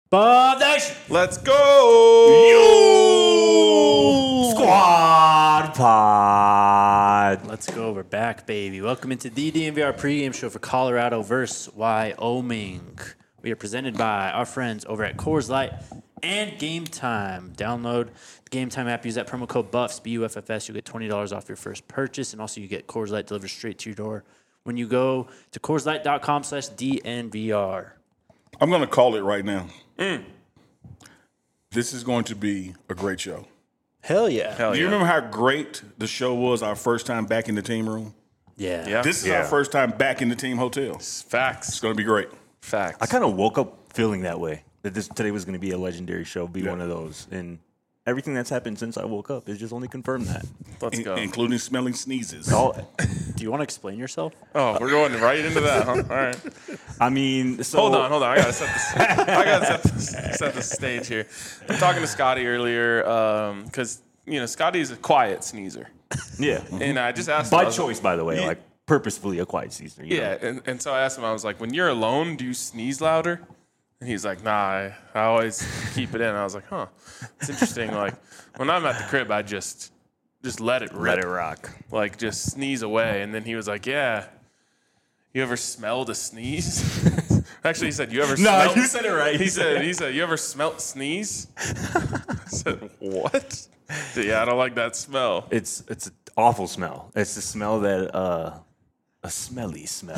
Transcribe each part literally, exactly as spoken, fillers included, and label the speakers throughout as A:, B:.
A: Bob Nation.
B: Let's go!
A: You
C: Squad Pod.
A: Let's go. We're back, baby. Welcome into the D N V R pregame show for Colorado versus Wyoming. We are presented by our friends over at Coors Light and Game Time. Download the Game Time app. Use that promo code BUFFS, B U F F S. You'll get twenty dollars off your first purchase, and also you get Coors Light delivered straight to your door when you go to Coors Light dot com slash D N V R.
B: I'm going to call it right now. Mm. This is going to be a great show.
A: Hell yeah.
B: Hell Do you yeah. remember how great the show was our first time back in the team room?
A: Yeah.
B: yeah. This is
C: yeah.
B: our first time back in the team hotel.
D: Facts.
B: It's going to be great.
D: Facts.
C: I kind of woke up feeling that way, that this today was going to be a legendary show, be
B: yeah.
C: one of those. And everything that's happened since I woke up has just only confirmed that.
D: Let's
B: In,
D: go.
B: Including smelling sneezes.
C: All,
A: Do you want to explain yourself?
D: Oh, we're going right into that, huh? All right.
C: I mean, so.
D: Hold on, hold on. I gotta set this. I gotta set this, set the stage here. I'm talking to Scotty earlier because um, you know Scotty's a quiet sneezer,
C: Yeah.
D: and I just asked
C: By
D: him, I was
C: choice,
D: like,
C: by the way,
D: Yeah.
C: like purposefully a quiet season. You
D: yeah,
C: know?
D: and, and so I asked him. I was like, when you're alone, do you sneeze louder? And he's like, Nah, I, I always keep it in. I was like, Huh, it's interesting. Like when I'm at the crib, I just just let it rip.
C: Let it rock.
D: Like just sneeze away. And then he was like, Yeah. You ever smelled a sneeze? Actually, he said, "You ever?"
C: No,
D: smelled?
C: you said it right.
D: He said, "He said, you ever smelt sneeze?" I said, "What?" Yeah, I don't like that smell.
C: It's it's an awful smell. It's the smell that uh, a smelly smell.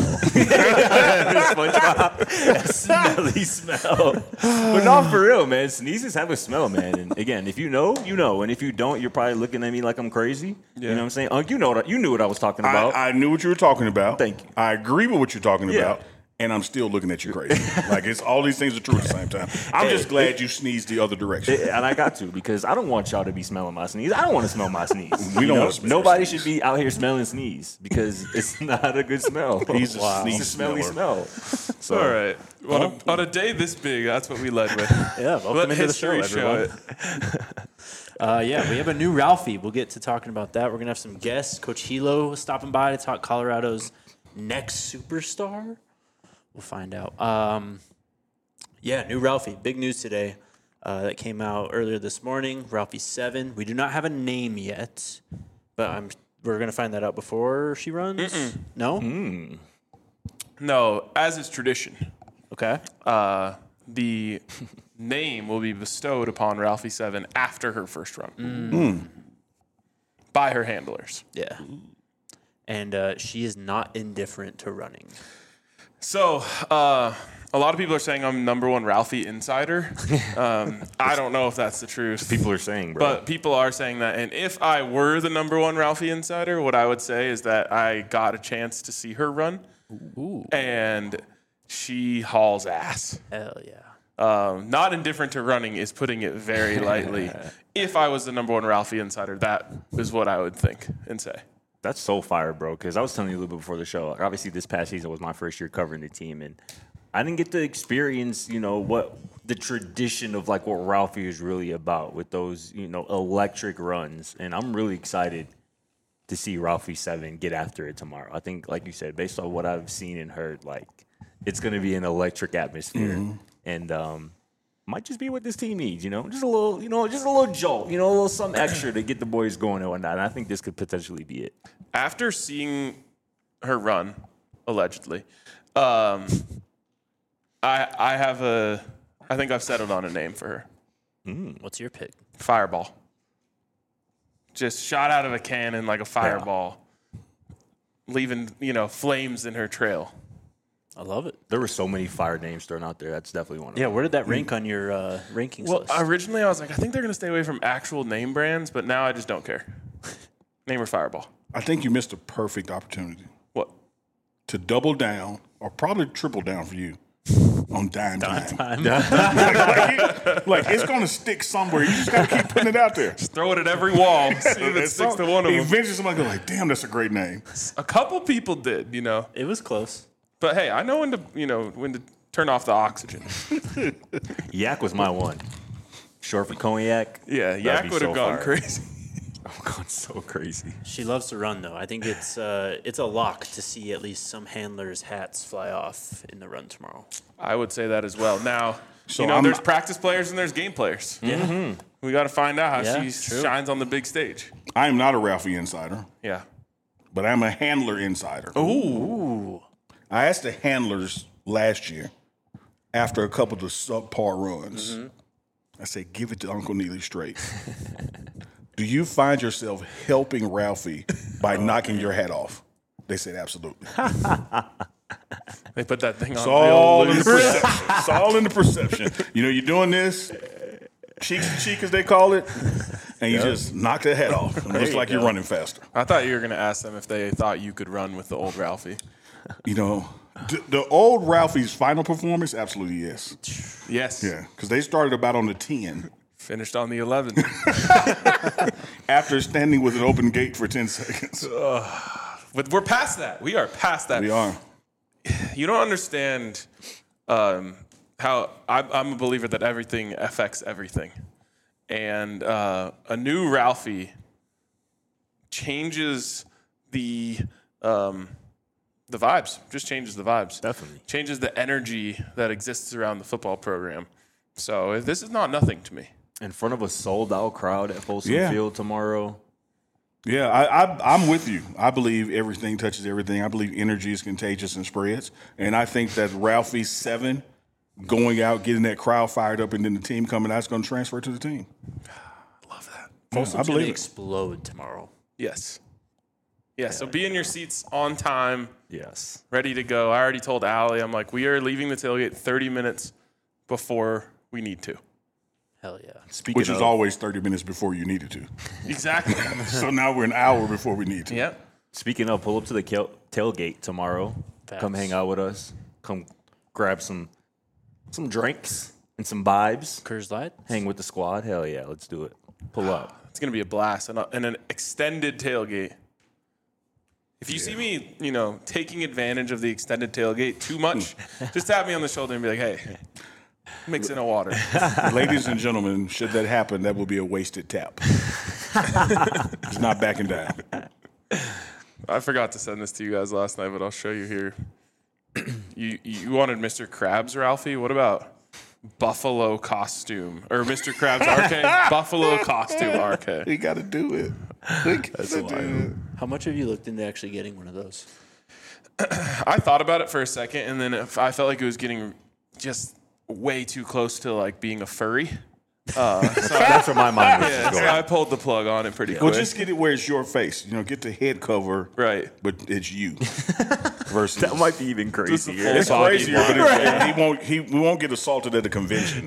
C: a smelly smell. But not for real, man. Sneezes have a smell, man. And again, if you know, you know, and if you don't, you're probably looking at me like I'm crazy.
D: Yeah.
C: You know what I'm saying? Uh, you know what? You knew what I was talking about.
B: I, I knew what you were talking about.
C: Thank you.
B: I agree with what you're talking
C: Yeah.
B: about. And I'm still looking at you crazy. Like, it's all these things are true at the same time. I'm just glad you sneezed the other direction.
C: And I got to, because I don't want y'all to be smelling my sneeze. I don't want to smell my sneeze.
B: We
C: You
B: don't
C: know?
B: wanna smell your
C: Nobody
B: sneeze.
C: should be out here smelling sneeze because it's not a good smell.
B: He's a
C: Wow.
B: sneeze
C: It's a smelly
B: smeller.
C: smell. So,
D: All right. On a, on a day this big, that's what we led with.
A: Yeah, welcome
D: Let
A: into the show,
D: history show
A: everyone.
D: it.
A: Uh, yeah, we have a new Ralphie. We'll get to talking about that. We're going to have some guests. Coach Hilo stopping by to talk Colorado's next superstar. We'll find out. Um, yeah, new Ralphie. Big news today uh, that came out earlier this morning. Ralphie seven. We do not have a name yet, but I'm we're going to find that out before she runs.
D: Mm-mm.
A: No?
C: mm.
D: No, as is tradition,
A: Okay.
D: uh, the name will be bestowed upon Ralphie Seven after her first run
A: Mm.
D: by her handlers.
A: Yeah. And uh, she is not indifferent to running.
D: So, uh, a lot of people are saying I'm number one Ralphie insider. Um, I don't know if that's the truth.
C: People are saying, bro.
D: But people are saying that. And if I were the number one Ralphie insider, what I would say is that I got a chance to see her run.
A: Ooh.
D: And she hauls ass.
A: Hell yeah.
D: Um, not indifferent to running is putting it very lightly. If I was the number one Ralphie insider, that is what I would think and say.
C: That's so fire, bro. Because I was telling you a little bit before the show. Like, obviously, this past season was my first year covering the team, and I didn't get to experience, you know, what the tradition of like what Ralphie is really about with those, you know, electric runs. And I'm really excited to see Ralphie Seven get after it tomorrow. I think, like you said, based on what I've seen and heard, like it's going to be an electric atmosphere, mm-hmm. and um, might just be what this team needs, you know, just a little, you know, just a little jolt, you know, a little something extra to get the boys going and whatnot. And I think this could potentially be it.
D: After seeing her run, allegedly, um, I I have a, I think I've settled on a name for her.
A: Mm, what's your pick?
D: Fireball. Just shot out of a cannon like a fireball, yeah. leaving, you know, flames in her trail.
A: I love it.
C: There were so many fire names thrown out there. That's definitely one of
A: Yeah,
C: them.
A: where did that rank on your uh, rankings
D: Well,
A: list?
D: originally I was like, I think they're going to stay away from actual name brands, but now I just don't care. Name her Fireball.
B: I think you missed a perfect opportunity
D: What?
B: to double down, or probably triple down for you, on dime time.
A: Time.
B: like, like, it's going to stick somewhere. You just got to keep putting it out there.
D: Just throw it at every wall. See if it
B: It's
D: sticks
B: some-
D: to one of them.
B: Eventually somebody go like, damn, that's a great name.
D: A couple people did, you know.
A: It was close.
D: But hey, I know when to, you know, when to turn off the oxygen.
C: Yak was my one. Short for cognac.
D: Yeah,
C: That'd
D: Yak
C: be
D: would have
C: so
D: gone
C: fire.
D: crazy.
C: I'm going so crazy.
A: She loves to run, though. I think it's uh, it's a lock to see at least some handlers' hats fly off in the run tomorrow.
D: I would say that as well. Now,
B: So
D: you know,
B: I'm
D: there's
B: not-
D: practice players and there's game players.
A: Yeah.
D: We got to find out how
A: Yeah,
D: she
A: true.
D: shines on the big stage.
B: I am not a Ralphie insider,
D: Yeah.
B: but I'm a handler insider.
A: Ooh.
B: I asked the handlers last year after a couple of the subpar runs.
A: Mm-hmm.
B: I said, give it to Uncle Neely straight. Do you find yourself helping Ralphie by knocking your hat off? They said, absolutely.
D: They put that thing on
B: It's
D: real
B: all in the
D: loose.
B: perception. It's all in the perception. You know, you're doing this, cheek to cheek, as they call it, and you just knock the hat off. It looks
A: you
B: like
A: go.
B: you're running faster.
D: I thought you were going to ask them if they thought you could run with the old Ralphie.
B: You know, the, the old Ralphie's final performance, absolutely yes.
D: Yes.
B: Yeah, because they started about on the ten
D: Finished on the eleven.
B: after standing with an open gate for ten seconds.
D: But we're past that. We are past that.
B: We are.
D: You don't understand um, how I, I'm a believer that everything affects everything. And uh, a new Ralphie changes the um, the vibes, just changes the vibes.
C: Definitely.
D: Changes the energy that exists around the football program. So this is not nothing to me.
C: In front of a sold-out crowd at Folsom
B: Yeah.
C: Field tomorrow.
B: Yeah, I, I, I'm with you. I believe everything touches everything. I believe energy is contagious and spreads. And I think that Ralphie seven going out, getting that crowd fired up, and then the team coming out is going to transfer to the team.
D: Love that.
B: Yeah, I
A: Folsom's going
B: believe
A: to
B: it.
A: explode tomorrow.
D: Yes. Yeah, so be in your seats on time,
C: Yes.
D: ready to go. I already told Allie, I'm like, we are leaving the tailgate thirty minutes before we need to.
A: Hell yeah.
C: Speaking
B: Which is
C: of,
B: always thirty minutes before you needed to.
D: Exactly.
B: So now we're an hour before we need to.
D: Yeah.
C: Speaking of, pull up to the kel- tailgate tomorrow.
A: Facts.
C: Come hang out with us. Come grab some some drinks and some vibes.
A: Coors Light?
C: Hang with the squad. Hell yeah, let's do it. Pull up.
D: It's going to be a blast and, a, and an extended tailgate. If you see me, you know, taking advantage of the extended tailgate too much, just tap me on the shoulder and be like, hey, mix in a water.
B: Ladies and gentlemen, should that happen, that will be a wasted tap. It's not backing down.
D: I forgot to send this to you guys last night, but I'll show you here. You you wanted Mister Krabs, Ralphie? What about Buffalo costume? Or Mister Krabs R K? Buffalo costume R K.
B: We got to do it. We gotta do it.
A: How much have you looked into actually getting one of those?
D: I thought about it for a second, and then if I felt like it was getting just way too close to like being a furry.
C: That's where my mind was
D: Yeah,
C: just
D: so
C: going.
D: I pulled the plug on it pretty
B: Well,
D: quick.
B: just get it where it's your face. You know, get the head cover,
D: Right.
B: but it's you. Versus
C: That might be even
D: Just a
C: crazier.
D: full
B: it's
D: body
B: crazier,
D: one.
B: but it's, he won't. He we won't get assaulted at a convention.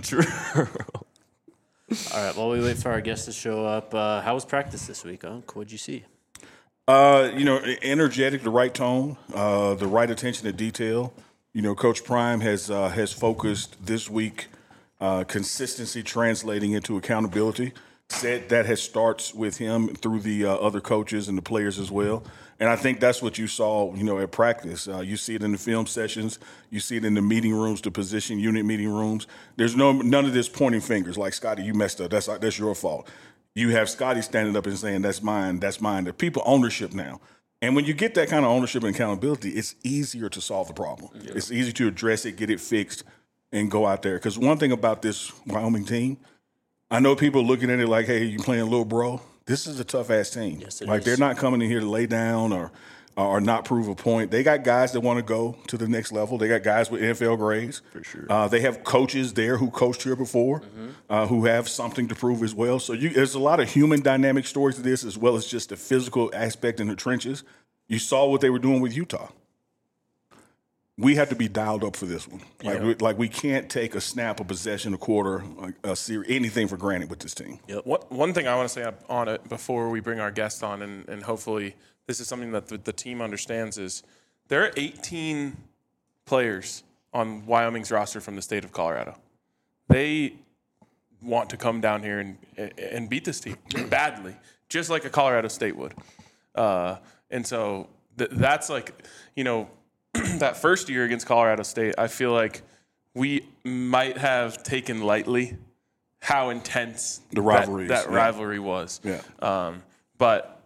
A: All right, while we wait for our guests to show up, uh, how was practice this week, Unc? What'd you see?
B: Uh, you know, energetic, the right tone, uh, the right attention to detail. You know, Coach Prime has uh, has focused this week uh, consistency translating into accountability. Said that has starts with him through the uh, other coaches and the players as well. And I think that's what you saw, you know, at practice. Uh, you see it in the film sessions. You see it in the meeting rooms, the position unit meeting rooms. There's no none of this pointing fingers like, Scotty, you messed up. That's that's your fault. You have Scotty standing up and saying, that's mine, that's mine. The people ownership now. And when you get that kind of ownership and accountability, it's easier to solve the problem. Yeah. It's easy to address it, get it fixed, and go out there. Because one thing about this Wyoming team, I know people looking at it like, hey, you playing little bro. This is a tough-ass team.
A: Yes, it
B: like,
A: is.
B: they're not coming in here to lay down or or not prove a point. They got guys that want to go to the next level. They got guys with N F L grades. For sure. Uh, they have coaches there who coached here before, mm-hmm. uh, who have something to prove as well. So you, there's a lot of human dynamic stories to this, as well as just the physical aspect in the trenches. You saw what they were doing with Utah. We have to be dialed up for this one. Like,
A: Yeah.
B: we, like we can't take a snap, a possession, a quarter, a, a series, anything for granted with this team.
D: What, one thing I want to say up on it before we bring our guest on, and, and hopefully this is something that the, the team understands, is there are eighteen players on Wyoming's roster from the state of Colorado. They want to come down here and and beat this team badly, just like a Colorado State would. Uh, and so th- that's like, you know, that first year against Colorado State, I feel like we might have taken lightly how intense
B: The rivalries,
D: that, that
B: yeah.
D: rivalry was.
B: Yeah.
D: Um, but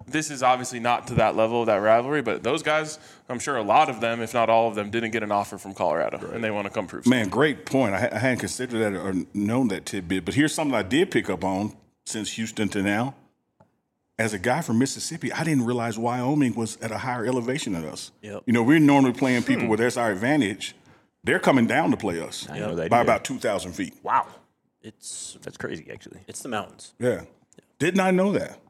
D: this is obviously not to that level of that rivalry, but those guys, I'm sure a lot of them, if not all of them, didn't get an offer from Colorado, right. and they want to come prove something.
B: Man, great point. I, I hadn't considered that or known that tidbit, but here's something I did pick up on since Houston to now. As a guy from Mississippi, I didn't realize Wyoming was at a higher elevation than us.
A: Yep.
B: You know, we're normally playing people where there's our advantage. They're coming down to play us
C: I know that
B: by
C: either.
B: about two thousand feet.
C: Wow.
A: It's
C: That's crazy, actually.
A: it's the mountains.
B: Yeah. Did not know that.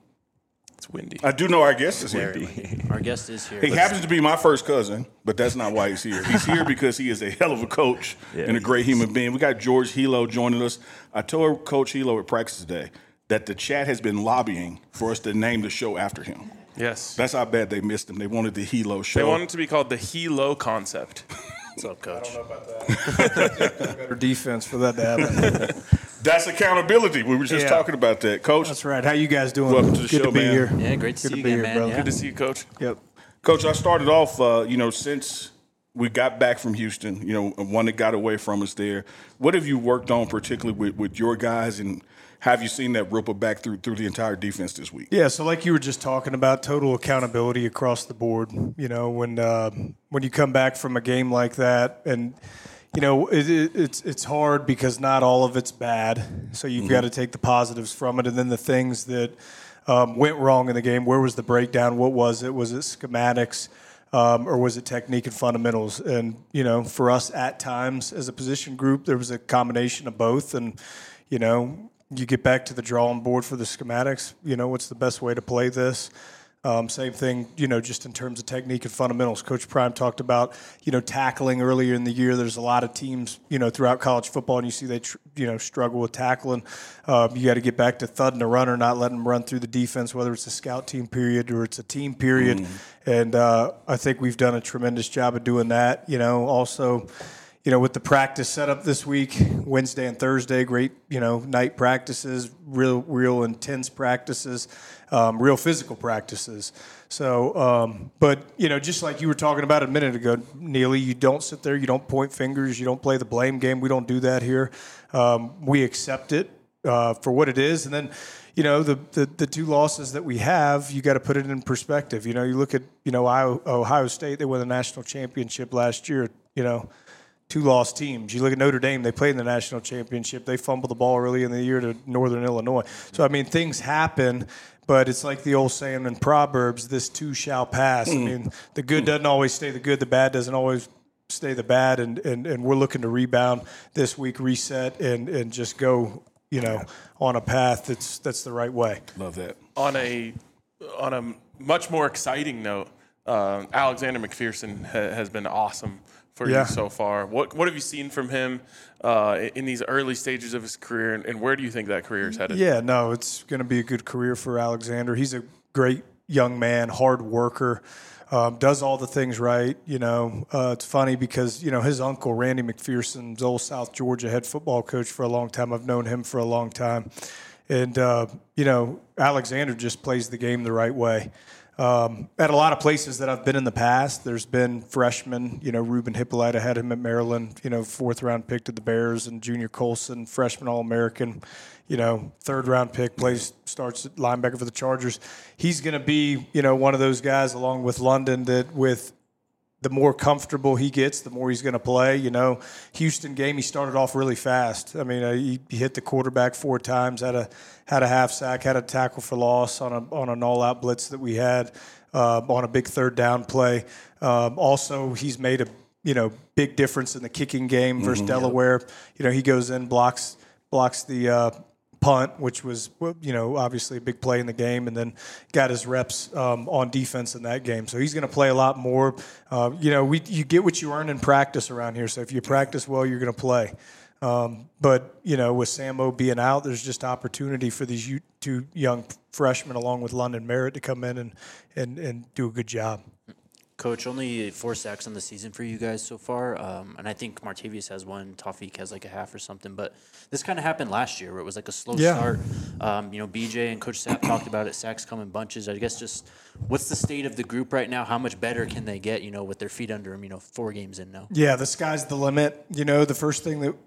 D: It's windy.
B: I do know our guest is here.
A: Our guest is here.
B: He happens to be my first cousin, but that's not why he's here. He's here because he is a hell of a coach
C: Yeah.
B: and a great human being. We got George Hilo joining us. I told Coach Hilo at practice today that the chat has been lobbying for us to name the show after him.
D: Yes.
B: That's how bad they missed him. They wanted the Hilo show.
D: They want it to be called the Hilo concept.
A: What's up, Coach?
E: I don't know about that. Better defense for that to happen.
B: That's accountability. We were just
E: Yeah.
B: talking about that. Coach,
E: That's right. How you guys doing?
B: Welcome to the
E: Good
B: show,
E: to be
B: man.
E: here.
A: Yeah, great to
E: Good
A: see you
E: to be
A: again,
E: here,
A: man.
E: brother.
A: Yeah.
D: Good to see you, Coach.
E: Yep.
B: Coach, I started off, uh, you know, since we got back from Houston, you know, one that got away from us there. What have you worked on particularly with, with your guys, and have you seen that ripple back through through the entire defense this week?
E: Yeah, so like you were just talking about, total accountability across the board. You know, when uh, when you come back from a game like that, and you know it, it, it's it's hard because not all of it's bad. So you've got to take the positives from it, and then the things that um, went wrong in the game. Where was the breakdown? What was it? Was it schematics? Um, or was it technique and fundamentals? And, you know, for us at times as a position group, there was a combination of both. And, you know, you get back to the drawing board for the schematics. You know, what's the best way to play this? Um, same thing, you know, just in terms of technique and fundamentals. Coach Prime talked about, you know, tackling earlier in the year. There's a lot of teams, you know, throughout college football, and you see they, tr- you know, struggle with tackling. Uh, you got to get back to thudding a runner, not letting them run through the defense, whether it's a scout team period or it's a team period. Mm. And uh, I think we've done a tremendous job of doing that. You know, also, you know, with the practice setup this week, Wednesday and Thursday, great, you know, night practices, real, real intense practices. Um, real physical practices. So, um, but, you know, just like you were talking about a minute ago, Neely, you don't sit there, you don't point fingers, you don't play the blame game. We don't do that here. Um, we accept it uh, for what it is. And then, you know, the, the, the two losses that we have, you got to put it in perspective. You know, you look at, you know, Ohio, Ohio State, they won the national championship last year, you know, two lost teams. You look at Notre Dame, they played in the national championship. They fumbled the ball early in the year to Northern Illinois. So, I mean, things happen. But it's like the old saying in Proverbs, this too shall pass. Mm. I mean, the good doesn't always stay the good. The bad doesn't always stay the bad. And, and, and we're looking to rebound this week, reset, and, and just go, you know, on a path that's that's the right way.
B: Love that.
D: On a on a much more exciting note, uh, Alexander McPherson ha- has been awesome for
E: yeah.
D: you so far. What what have you seen from him uh, in these early stages of his career, and, and where do you think that career is headed?
E: Yeah, no, it's going to be a good career for Alexander. He's a great young man, hard worker, um, does all the things right. You know, uh, it's funny because, you know, his uncle, Randy McPherson's old South Georgia head football coach for a long time. I've known him for a long time. And, uh, you know, Alexander just plays the game the right way. Um, at a lot of places that I've been in the past, there's been freshmen, you know, Ruben Hippolyte, I had him at Maryland, you know, fourth round pick to the Bears, and Junior Colson, freshman All-American, you know, third round pick, plays, starts at linebacker for the Chargers. He's going to be, you know, one of those guys along with London that with the more comfortable he gets, the more he's going to play. You know, Houston game, he started off really fast. I mean, uh, he, he hit the quarterback four times, had a had a half sack, had a tackle for loss on a on an all-out blitz that we had uh, on a big third down play. Um, also, he's made a you know big difference in the kicking game versus mm-hmm. Delaware. You know, he goes in, blocks blocks the uh, punt, which was, you know, obviously a big play in the game, and then got his reps um, on defense in that game. So he's going to play a lot more. Uh, you know, we you get what you earn in practice around here. So if you practice well, you're going to play. Um, but, you know, with Sammo being out, there's just opportunity for these u- two young freshmen along with London Merritt to come in and, and, and do a good job.
A: Coach, only four sacks on the season for you guys so far, um, and I think Martavius has one, Tawfiq has like a half or something, but this kind of happened last year where it was like a slow
E: yeah.
A: start. Um, you know, B J and Coach Sapp talked about it, sacks come in bunches. I guess just what's the state of the group right now? How much better can they get, you know, with their feet under them, you know, four games in now?
E: Yeah, the sky's the limit. You know, the first thing that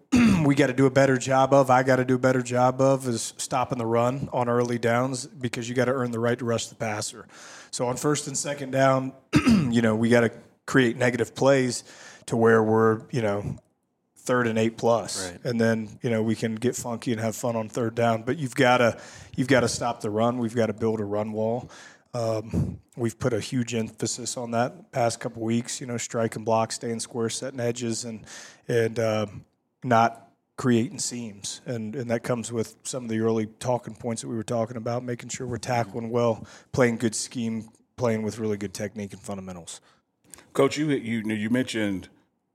E: we got to do a better job of, I got to do a better job of, is stopping the run on early downs, because you got to earn the right to rush the passer. So on first and second down, you know, we got to create negative plays to where we're, you know, third and eight plus,
A: right.
E: and then, you know, we can get funky and have fun on third down. But you've got to you've got to stop the run. We've got to build a run wall. Um, we've put a huge emphasis on that the past couple weeks. You know, strike and block, staying square, setting edges, and and uh, not creating seams. And and that comes with some of the early talking points that we were talking about, making sure we're tackling well, playing good scheme, playing with really good technique and fundamentals.
B: Coach, you you you mentioned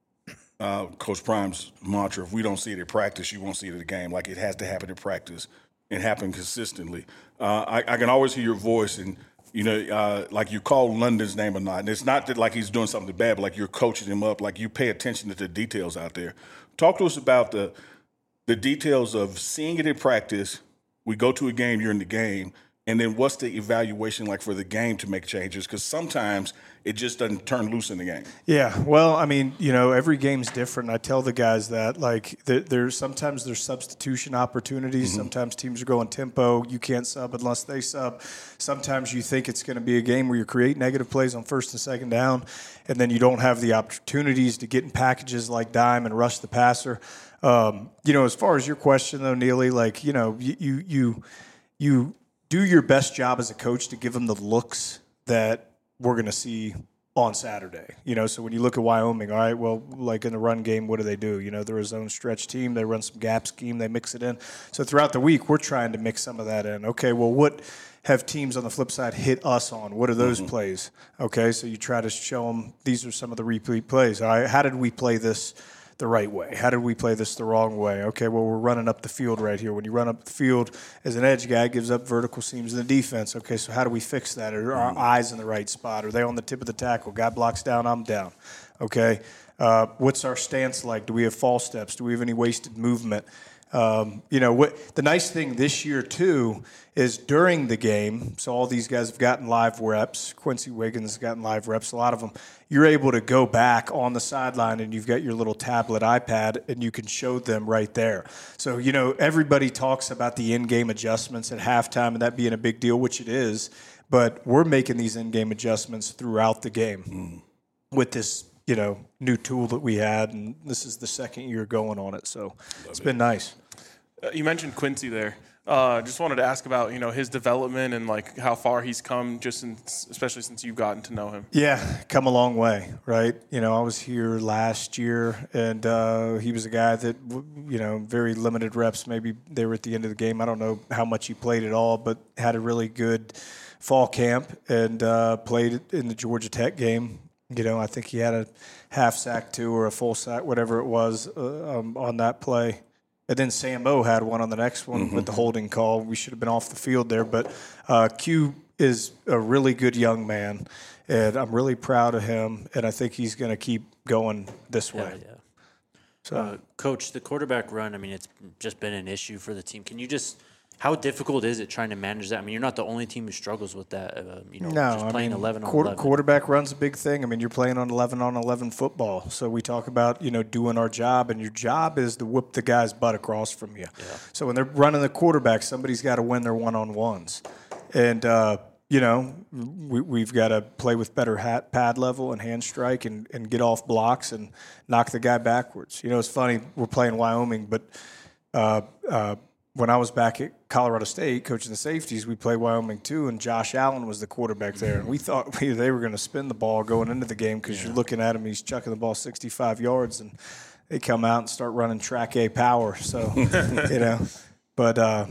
B: uh, Coach Prime's mantra: if we don't see it at practice, you won't see it at the game. Like, it has to happen at practice and happen consistently. Uh, I, I can always hear your voice, and you know, uh, like you call London's name or not. And it's not that like he's doing something bad, but like you're coaching him up. Like, you pay attention to the details out there. Talk to us about the the details of seeing it in practice. We go to a game, you're in the game. And then what's the evaluation like for the game to make changes? Because sometimes it just doesn't turn loose in the game.
E: Yeah, well, I mean, you know, every game's different. I tell the guys that, like, there, there's sometimes there's substitution opportunities. Mm-hmm. Sometimes teams are going tempo. You can't sub unless they sub. Sometimes you think it's going to be a game where you create negative plays on first and second down, and then you don't have the opportunities to get in packages like dime and rush the passer. Um, you know, as far as your question, though, Neely, like, you know, you you you, you do your best job as a coach to give them the looks that we're going to see on Saturday. You know, so when you look at Wyoming, all right, well, like in the run game, what do they do? You know, they're a zone stretch team. They run some gap scheme. They mix it in. So throughout the week, we're trying to mix some of that in. Okay, well, what have teams on the flip side hit us on? What are those mm-hmm. plays? Okay, so you try to show them these are some of the repeat plays. All right, how did we play this the right way? How did we play this the wrong way? Okay, well, we're running up the field right here. When you run up the field as an edge guy, it gives up vertical seams in the defense. Okay, so how do we fix that? Are our eyes in the right spot? Are they on the tip of the tackle? Guy blocks down, I'm down. Okay, uh, what's our stance like? Do we have false steps? Do we have any wasted movement? Um, you know, what the nice thing this year, too, is during the game, so all these guys have gotten live reps. Quincy Wiggins has gotten live reps, a lot of them. You're able to go back on the sideline, and you've got your little tablet iPad, and you can show them right there. So, you know, everybody talks about the in-game adjustments at halftime and that being a big deal, which it is, but we're making these in-game adjustments throughout the game mm. with this, you know, new tool that we had, and this is the second year going on it, so Love it's it. been nice.
D: Uh, you mentioned Quincy there. Uh, just wanted to ask about, you know, his development and like how far he's come, just since, especially since you've gotten to know him.
E: Yeah, come a long way, right? You know, I was here last year, and uh, he was a guy that, you know, very limited reps. Maybe they were at the end of the game. I don't know how much he played at all, but had a really good fall camp and uh, played in the Georgia Tech game. You know, I think he had a half sack too, or a full sack, whatever it was, uh, um, on that play. And then Sam O had one on the next one mm-hmm. with the holding call. We should have been off the field there. But uh, Q is a really good young man, and I'm really proud of him, and I think he's going to keep going this way.
A: Yeah, yeah. So, uh, Coach, the quarterback run, I mean, it's just been an issue for the team. Can you just – how difficult is it trying to manage that? I mean, you're not the only team who struggles with that, uh, you know,
E: no,
A: just playing
E: I mean,
A: eleven on
E: quarter,
A: eleven.
E: Quarterback run's a big thing. I mean, you're playing on eleven on eleven football. So we talk about, you know, doing our job, and your job is to whip the guy's butt across from you. Yeah. So when they're running the quarterback, somebody's got to win their one-on-ones. And, uh, you know, we, we've got to play with better hat, pad level and hand strike and, and get off blocks and knock the guy backwards. You know, it's funny, we're playing Wyoming, but uh, uh, – when I was back at Colorado State coaching the safeties, we played Wyoming too, and Josh Allen was the quarterback there. And we thought we, they were going to spin the ball going into the game because yeah. you're looking at him, he's chucking the ball sixty-five yards, and they come out and start running track A power. So, you know, but uh,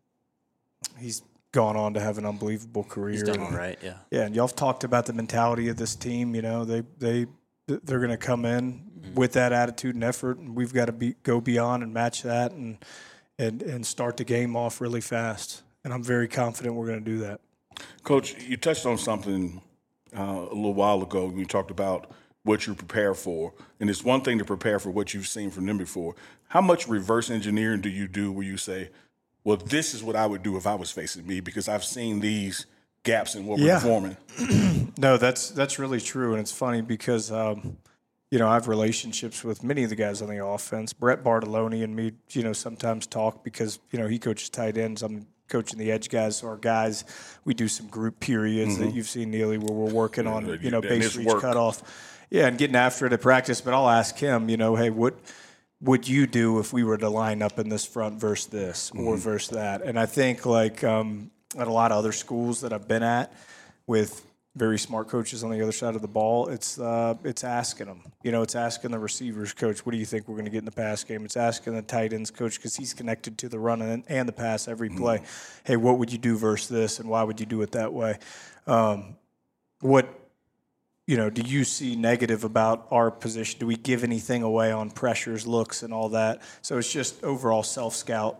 E: he's gone on to have an unbelievable career.
A: He's done all right, yeah.
E: Yeah, and y'all have talked about the mentality of this team. You know, they, they, they're going to come in mm-hmm. with that attitude and effort, and we've got to be, go beyond and match that and – And, and start the game off really fast. And I'm very confident we're going to do that.
B: Coach, you touched on something uh, a little while ago when you talked about what you prepare for. And it's one thing to prepare for what you've seen from them before. How much reverse engineering do you do where you say, well, this is what I would do if I was facing me because I've seen these gaps in what we're
E: yeah.
B: performing?
E: No, that's that's really true. And it's funny because, um, you know, I have relationships with many of the guys on the offense. Brett Bartoloni and me, you know, sometimes talk because, you know, he coaches tight ends. I'm coaching the edge guys. So our guys, we do some group periods mm-hmm. that you've seen, Neely, where we're working on, yeah, you know, base reach work. cutoff. Yeah, and getting after it at practice. But I'll ask him, you know, hey, what would you do if we were to line up in this front versus this mm-hmm. or versus that? And I think, like, um, at a lot of other schools that I've been at with very smart coaches on the other side of the ball, it's uh, it's asking them. You know, it's asking the receivers coach, what do you think we're going to get in the pass game? It's asking the tight ends coach because he's connected to the run and, and the pass every play. Mm-hmm. Hey, what would you do versus this, and why would you do it that way? Um, what, you know, do you see negative about our position? Do we give anything away on pressures, looks, and all that? So it's just overall self-scout.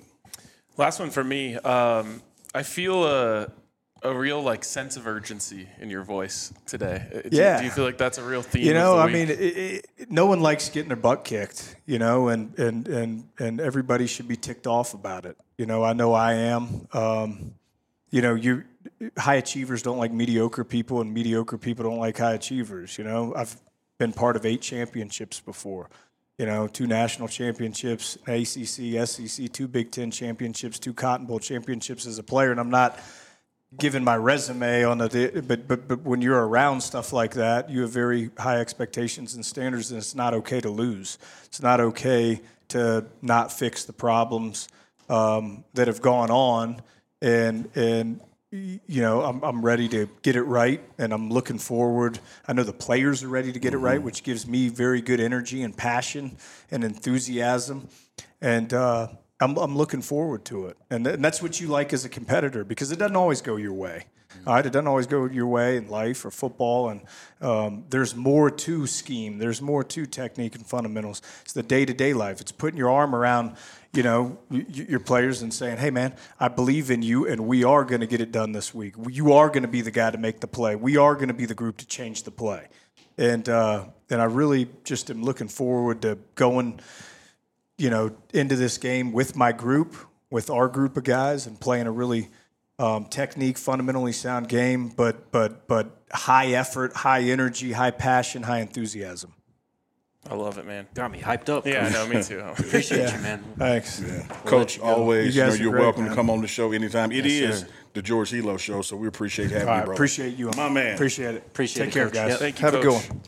D: Last one for me. Um, I feel a – a real like sense of urgency in your voice today. Do,
E: yeah.
D: Do you feel like that's a real theme?
E: You know,
D: of the
E: I
D: week?
E: mean, it, it, no one likes getting their butt kicked, you know, and, and, and, and everybody should be ticked off about it. You know, I know I am. Um, you know, you high achievers don't like mediocre people, and mediocre people don't like high achievers. You know, I've been part of eight championships before. You know, two national championships, A C C, S E C, two Big Ten championships, two Cotton Bowl championships as a player, and I'm not given my resume on the, but, but but when you're around stuff like that, you have very high expectations and standards, and it's not okay to lose. It's not okay to not fix the problems um, that have gone on, and and you know I'm I'm ready to get it right, and I'm looking forward. I know the players are ready to get mm-hmm. it right, which gives me very good energy and passion and enthusiasm, and. Uh, I'm, I'm looking forward to it. And, th- and that's what you like as a competitor, because it doesn't always go your way. All right? It doesn't always go your way in life or football. And um, there's more to scheme. There's more to technique and fundamentals. It's the day-to-day life. It's putting your arm around, you know, y- your players and saying, hey, man, I believe in you, and we are going to get it done this week. You are going to be the guy to make the play. We are going to be the group to change the play. And, uh, and I really just am looking forward to going – you know, into this game with my group, with our group of guys, and playing a really um, technique, fundamentally sound game, but but but high effort, high energy, high passion, high enthusiasm.
D: I love it, man.
A: Got me hyped up.
D: Yeah, no, me too.
A: Appreciate
E: yeah.
A: you, man.
E: Thanks.
B: Yeah. Coach,
A: you
B: always,
E: you
B: you know,
E: guys
B: you're
E: great,
B: welcome
E: man.
B: to come on the show anytime. It
A: Yes,
B: is
A: sir.
B: the George Hilo Show, so we appreciate having
E: All
B: you,
E: right,
B: bro.
E: appreciate you.
B: My man.
E: Appreciate it.
A: Appreciate
E: Take
A: it,
E: care,
A: Coach.
E: guys.
A: Yep.
D: Thank you,
E: Have
D: Coach.
E: a good one.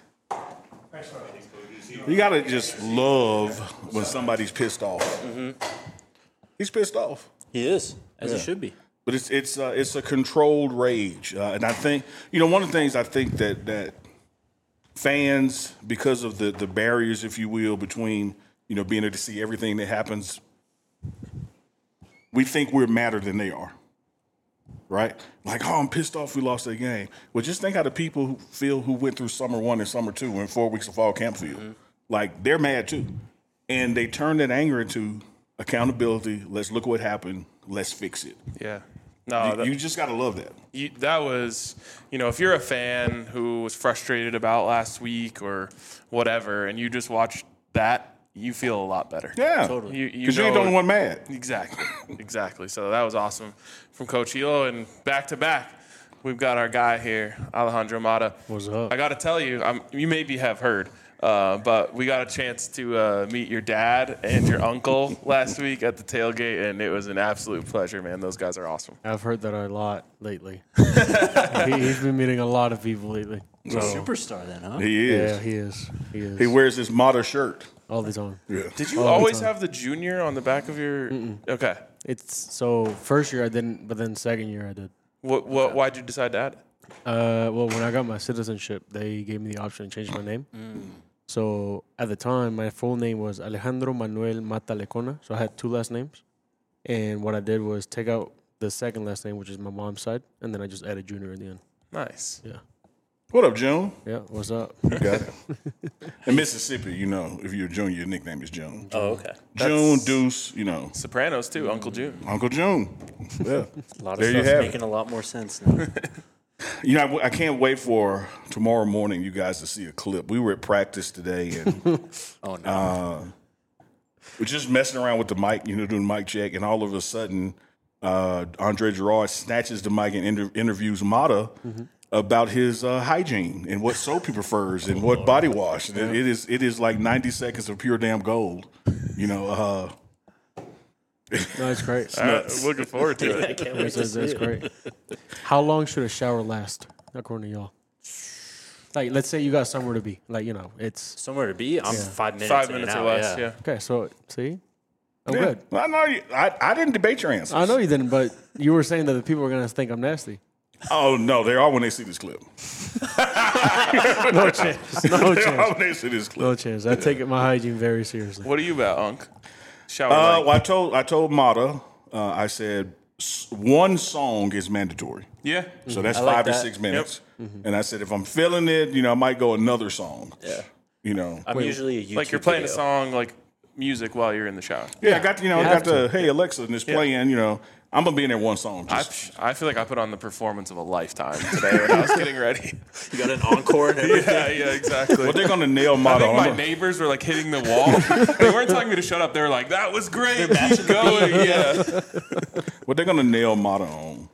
B: You got to just love when somebody's pissed off.
A: Mm-hmm.
B: He's pissed off.
A: He is, as
B: Yeah.
A: he should be.
B: But it's it's uh, it's a controlled rage, uh, and I think you know one of the things I think that that fans, because of the the barriers, if you will, between you know being able to see everything that happens, we think we're madder than they are, right? Like, oh, I'm pissed off we lost that game. Well, just think how the people who feel who went through summer one and summer two and four weeks of fall camp feel. Mm-hmm. Like they're mad too, and they turn that anger into accountability. Let's look what happened. Let's fix it.
D: Yeah. No,
B: You,
D: that,
B: you just got to love that.
D: you, that was, you know, if you're a fan who was frustrated about last week or whatever, and you just watch that, you feel a lot better.
B: Yeah,
A: Totally.
D: You, you
B: because you ain't the
D: know-
B: only one mad.
D: Exactly. Exactly. So that was awesome from Coach Hilo. And back to back, we've got our guy here, Alejandro Mata.
F: What's up?
D: I got to tell you, I'm, you maybe have heard, uh, but we got a chance to uh, meet your dad and your uncle last week at the tailgate, and it was an absolute pleasure, man. Those guys are awesome.
F: I've heard that a lot lately. he, he's been meeting a lot of people lately.
A: He's a superstar then, huh?
B: He is.
F: Yeah, he is. He is.
B: He wears his Mata shirt.
F: all the time.
B: Yeah.
D: Did you
F: All the
D: always
F: time.
D: have the junior on the back of your?
F: Mm-mm.
D: Okay.
F: It's so first year I didn't, but then second year I did.
D: What? What? Why'd you decide to add it?
F: Uh, well, when I got my citizenship, they gave me the option to change my name. So at the time, my full name was Alejandro Manuel Mata Lecona. So I had two last names, and what I did was take out the second last name, which is my mom's side, and then I just added Junior in the end.
D: Nice.
F: Yeah.
B: What up, June?
F: Yeah. What's up?
B: You got it. In Mississippi, you know, if you're a junior, your nickname is June.
A: Oh, okay.
B: June, Deuce, you know,
D: Sopranos too, Uncle June.
B: Uncle June. Yeah.
A: A lot of
B: There you
A: stuff's
B: have it.
A: making a lot more sense now.
B: You know, I, I can't wait for tomorrow morning you guys to see a clip. We were at practice today and
A: Oh, no.
B: we're just messing around with the mic, you know, doing mic check, and all of a sudden, uh, Andre Gerard snatches the mic and inter- interviews Mata, about his uh, hygiene and what soap he prefers and what body wash. And it, it is it is like ninety seconds of pure damn gold. You know, uh,
F: No, it's great.
D: Uh, looking forward to
A: I
D: it.
A: can't wait
F: That's,
A: to
F: that's,
A: see
F: that's
A: it.
F: great. How long should a shower last, according to y'all? Like, let's say you got somewhere to be. Like, you know, it's
A: Somewhere to be. I'm
F: Yeah.
A: five minutes.
D: Five
A: in and
D: minutes or
A: out,
D: less.
A: Yeah.
D: Yeah.
F: okay. So, see, I'm
B: yeah.
F: good.
B: I know you. I, I didn't debate your answer.
F: I know you didn't, but you were saying that the people are gonna think I'm nasty.
B: Oh no, they are when they see this clip.
F: No chance. No
B: They are
F: chance.
B: when they see this clip.
F: No chance. I take my hygiene very seriously.
D: What are you about, Unc? Shower.
B: Uh,
D: like-
B: well, I told I told Mata. Uh, I said s- one song is mandatory.
D: yeah.
B: So that's
A: I like
B: five to
A: that.
B: six minutes. And I said, if I'm feeling it, you know, I might go another song.
A: Yeah.
B: You know.
A: I'm usually a YouTube
D: Like you're playing
A: video.
D: a song like music while you're in the shower.
B: Yeah, I got you know,
F: You
B: I got
F: have
B: the hey Alexa, and it's playing. You know, I'm gonna be in there one song.
D: I,
B: Just,
D: I feel like I put on the performance of a lifetime today when I was getting ready.
A: You got an encore and everything.
D: yeah, yeah, exactly.
B: but they're gonna nail
D: I
B: Mata.
D: think my
B: on.
D: neighbors were like hitting the wall. They weren't telling me to shut up. They were like, "That was great. Keep going." Yeah.
B: What they're gonna nail Mata on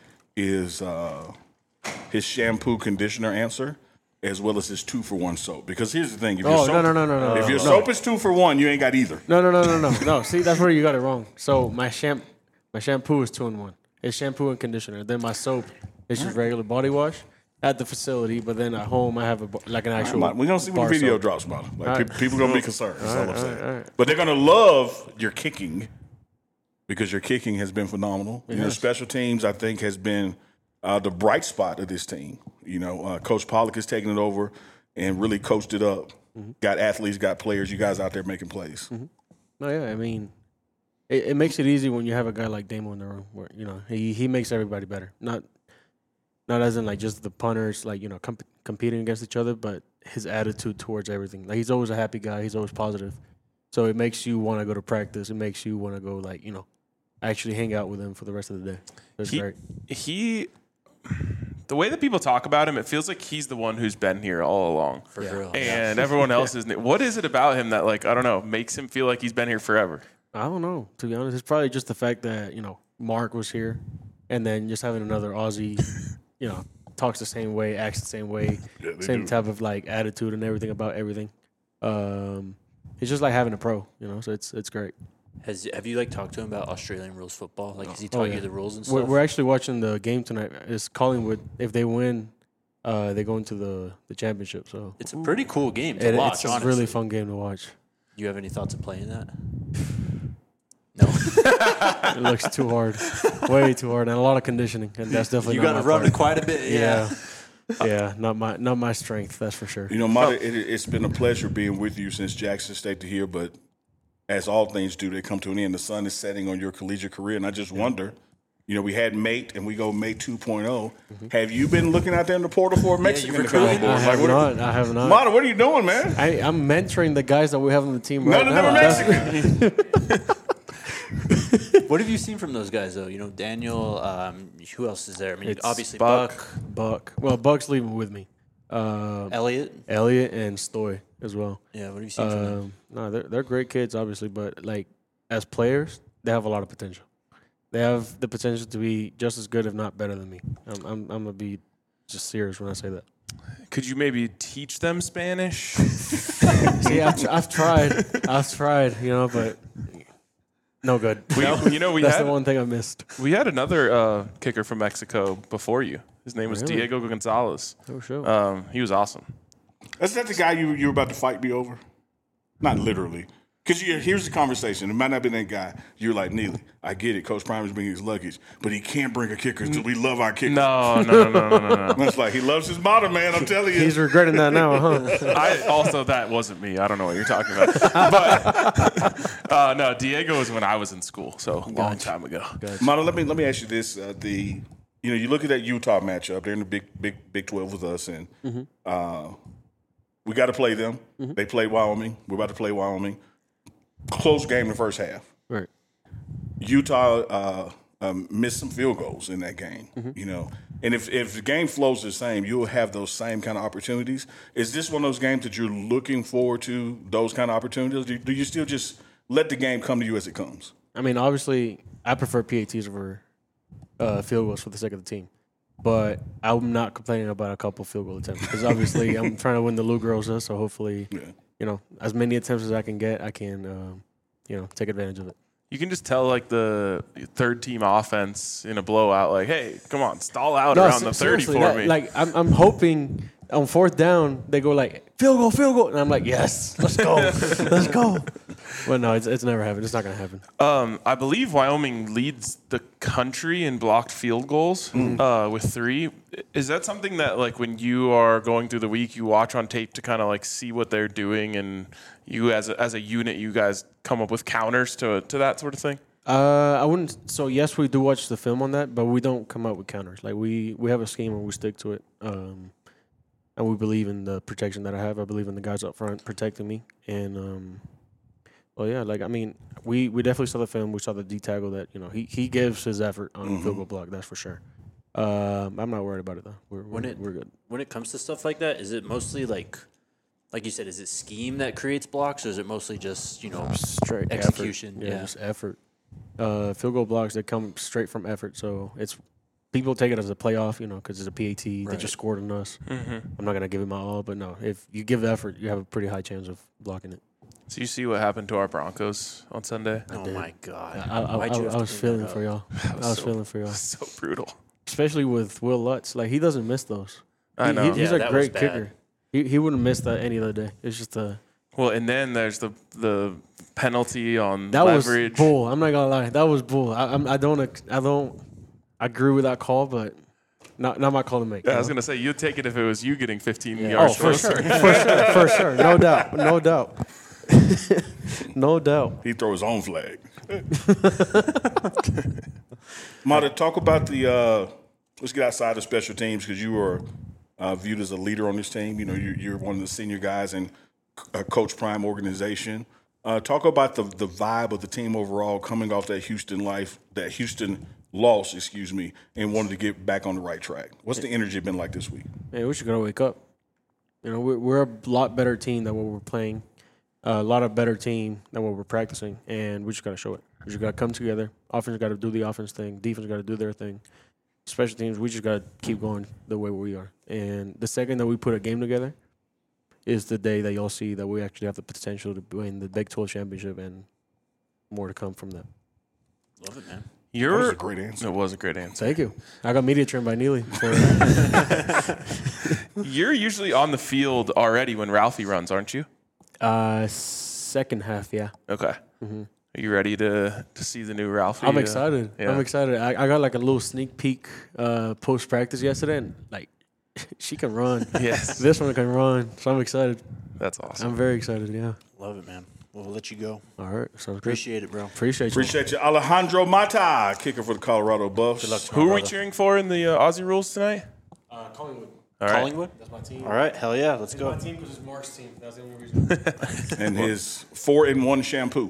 B: is uh, his shampoo conditioner answer, as well as his two for one soap. Because here's the thing: if your
F: Oh,
B: soap,
F: no, no, no, no, no.
B: if your
F: no.
B: soap is two for one, you ain't got either.
F: No, no, no, no, no, no. See, that's where you got it wrong. So my sham, my shampoo is two in one. It's shampoo and conditioner. Then my soap is just regular body wash at the facility. But then at home, I have a bo- like an actual.
B: We're gonna see when
F: bar
B: the video
F: soap.
B: drops, Mata. Like,
F: All
B: pe-
F: right.
B: people gonna be concerned. That's all, I'm
F: all
B: saying.
F: right, all right.
B: But they're gonna love your kicking because your kicking has been phenomenal. You know,
F: has.
B: special teams I think has been uh, the bright spot of this team. You know, uh, Coach Pollock has taken it over and really coached it up.
F: Mm-hmm.
B: Got athletes, got players. You guys out there making plays.
F: No, yeah, I mean, it, it makes it easy when you have a guy like Damo in the room, where you know he he makes everybody better. Not not as in like just the punters, like you know comp- competing against each other, but his attitude towards everything. Like he's always a happy guy. He's always positive. So it makes you want to go to practice. It makes you want to go like you know actually hang out with him for the rest of the day. That's
D: He,
F: great.
D: he, the way that people talk about him, it feels like he's the one who's been here all along.
A: For real.
D: And everyone else is. What is it about him that, like, I don't know, makes him feel like he's been here forever?
F: I don't know, to be honest. It's probably just the fact that, you know, Mark was here and then just having another Aussie, you know, talks the same way, acts the same way,
B: Yeah, they
F: same
B: do.
F: type of like attitude and everything about everything. Um, it's just like having a pro, you know, so it's it's great.
A: Has have you like talked to him about Australian rules football? Like, has he
F: Oh,
A: taught
F: yeah.
A: you the rules and
F: We're,
A: stuff?
F: we're actually watching the game tonight. It's Collingwood. If they win, uh, they go into the, the championship. So
A: It's a pretty cool game to
F: it,
A: watch.
F: it's a
A: honestly,
F: really fun game to watch.
A: You have any thoughts of playing that? No.
F: It looks too hard, way too hard, and a lot of conditioning, and that's definitely
A: You
F: not
A: got to
F: my
A: run
F: part.
A: it quite a bit. Yeah.
F: Yeah. Yeah, not my not my strength, that's for sure.
B: You know, Mata, it, it's been a pleasure being with you since Jackson State to here, but as all things do, they come to an end. The sun is setting on your collegiate career, and I just wonder, you know, we had Mate, and we go Mate two point oh. Have you been looking out there in the portal for a Mexican
A: you
B: to come on
A: recruiting?
B: board?
F: I have
B: what,
F: not. I have not.
B: Mata, what are you doing, man?
F: I, I'm mentoring the guys that we have on the team right
B: None of them
F: now.
B: are
F: That's-
B: Mexican.
A: What have you seen from those guys, though? You know, Daniel. Um, who else is there? I mean,
F: It's
A: obviously
F: Buck.
A: Buck,
F: Buck. Well, Buck's leaving with me. Uh,
A: Elliot.
F: Elliot and Stoy as well.
A: Yeah. What have you seen from them?
F: Um, no, they're they're great kids, obviously, but like as players, they have a lot of potential. They have the potential to be just as good, if not better, than me. I'm I'm, I'm gonna be just serious when I say that.
D: Could you maybe teach them Spanish?
F: See, I've, tr- I've tried, I've tried, you know, but no good.
D: We, you know, we
F: That's
D: had
F: the one thing I missed.
D: we had another uh, kicker from Mexico before you. His name was
F: Really?
D: Diego Gonzalez.
F: Oh, sure.
D: Um, he was awesome.
B: Is that the guy you you were about to fight me over? Not literally. Because here's the conversation. It might not be that guy. You're like, Neely, I get it. Coach Prime is bringing his luggage, but he can't bring a kicker because we love our kickers.
D: No, no, no, no, no, no.
B: And it's like, he loves his motto, man. I'm telling you.
F: He's regretting that now, huh?
D: I also that wasn't me. I don't know what you're talking about. But uh, no, Diego was when I was in school, so a long time ago.
B: Mata, let me let me ask you this: uh, the you know you look at that Utah matchup. They're in the big big Big twelve with us, and uh, we got to play them. They played Wyoming. We're about to play Wyoming. Close game in the first half.
F: Right.
B: Utah uh, um, missed some field goals in that game. You know, and if if the game flows the same, you'll have those same kind of opportunities. Is this one of those games that you're looking forward to? Those kind of opportunities? Do, do you still just let the game come to you as it comes?
F: I mean, obviously, I prefer P A Ts over uh, field goals for the sake of the team. But I'm not complaining about a couple field goal attempts because obviously I'm trying to win the Lou Groza. So hopefully,
B: Yeah.
F: you know, as many attempts as I can get, I can, um, you know, take advantage of it.
D: You can just tell like the third team offense in a blowout, like, hey, come on, stall out
F: No,
D: around
F: se-
D: the thirty
F: seriously,
D: for
F: that-
D: me.
F: Like I'm, I'm hoping on fourth down they go like field goal, field goal, and I'm like, yes, let's go, let's go. But no, it's it's never happened. It's not gonna happen.
D: Um, I believe Wyoming leads the country in blocked field goals uh, with three. Is that something that, like, when you are going through the week, you watch on tape to kind of like see what they're doing, and you as a, as a unit, you guys come up with counters to to that sort of thing?
F: Uh, I wouldn't. So yes, we do watch the film on that, but we don't come up with counters. Like we we have a scheme and we stick to it. Um, and we believe in the protection that I have. I believe in the guys up front protecting me. And um, well, yeah, like I mean, we, we definitely saw the film. We saw the D tackle that you know he, he gives his effort on
B: Mm-hmm.
F: a field goal block. That's for sure. Um, I'm not worried about it though. We're we're,
A: When it-
F: we're good.
A: When it comes to stuff like that, is it mostly like, like you said, is it scheme that creates blocks, or is it mostly just you know
F: Straight
A: execution?
F: Effort. Yeah,
A: Yeah.
F: just effort. Uh, field goal blocks that come straight from effort. So it's people take it as a playoff, you know, because it's a P A T. They
A: Right.
F: just scored on us.
D: Mm-hmm.
F: I'm not gonna give it my all, but no, if you give the effort, you have a pretty high chance of blocking it.
D: So you see what happened to our Broncos on Sunday?
A: Oh
F: did.
A: my god!
F: I, I,
A: Why'd
F: I,
A: you have
F: I
A: to
F: was
A: bring that
F: feeling
A: up?
F: for y'all. I
D: was
F: was
D: so-
F: feeling for y'all,
D: So brutal.
F: especially with Will Lutz. Like he doesn't miss those.
D: I
F: He-
D: know.
F: he- he's
A: Yeah,
F: a
A: that was
F: great
A: bad.
F: kicker. He he wouldn't miss that any other day. It's just a
D: Well, and then there's the the penalty on
F: that
D: leverage.
F: was bull. I'm not gonna lie, that was bull. I I'm, I don't ex- I don't agree with that call, but not not my call to make.
D: Yeah, I
F: you
D: was
F: know?
D: gonna say you'd take it if it was you getting fifteen
A: Yeah.
F: Oh,
D: yards
F: for
D: closer.
F: sure, for sure, for sure, no doubt, no doubt, no doubt.
B: He throw his own flag. Mata, talk about the. Uh, let's get outside of special teams because you were uh, viewed as a leader on this team. You know, you're, you're one of the senior guys in uh, Coach Prime organization. Uh, talk about the the vibe of the team overall, coming off that Houston life, that Houston loss, excuse me, and wanted to get back on the right track. What's the energy been like this week?
F: Man, we should gotta wake up. You know, we're, we're a lot better team than what we're playing. Uh, a lot of better team than what we're practicing, and we just gotta show it. We just gotta come together. Offense got to do the offense thing. Defense got to do their thing. Special teams, we just gotta keep going the way we are. And the second that we put a game together, is the day that y'all see that we actually have the potential to win the Big twelve championship and more to come from that.
A: Love it, man.
D: You're,
B: That was a great answer.
D: It was a great answer.
F: Thank you. I got media trained by Neely. For,
D: You're usually on the field already when Ralphie runs, aren't you?
F: uh, second half, yeah.
D: Okay. Are you ready to to see the new Ralphie?
F: I'm
D: uh,
F: excited.
D: yeah.
F: I'm excited. I, I got like a little sneak peek uh, post practice yesterday, and like she can run.
D: Yes.
F: This one can run, so I'm excited.
D: That's awesome.
F: I'm very excited. Yeah.
A: Love it, man. We'll let you go.
F: All right. Sounds good.
A: Appreciate it, bro.
F: Appreciate you.
B: Appreciate you, Alejandro Mata, kicker for the Colorado Buffs. Good luck to
D: Who are we cheering for in the uh, Aussie rules tonight?
F: Uh, Collingwood.
D: All right.
A: Collingwood.
F: That's my team.
A: All right, hell yeah, let's go.
F: team because it's Mark's team. That's the only reason.
B: and his four in one shampoo.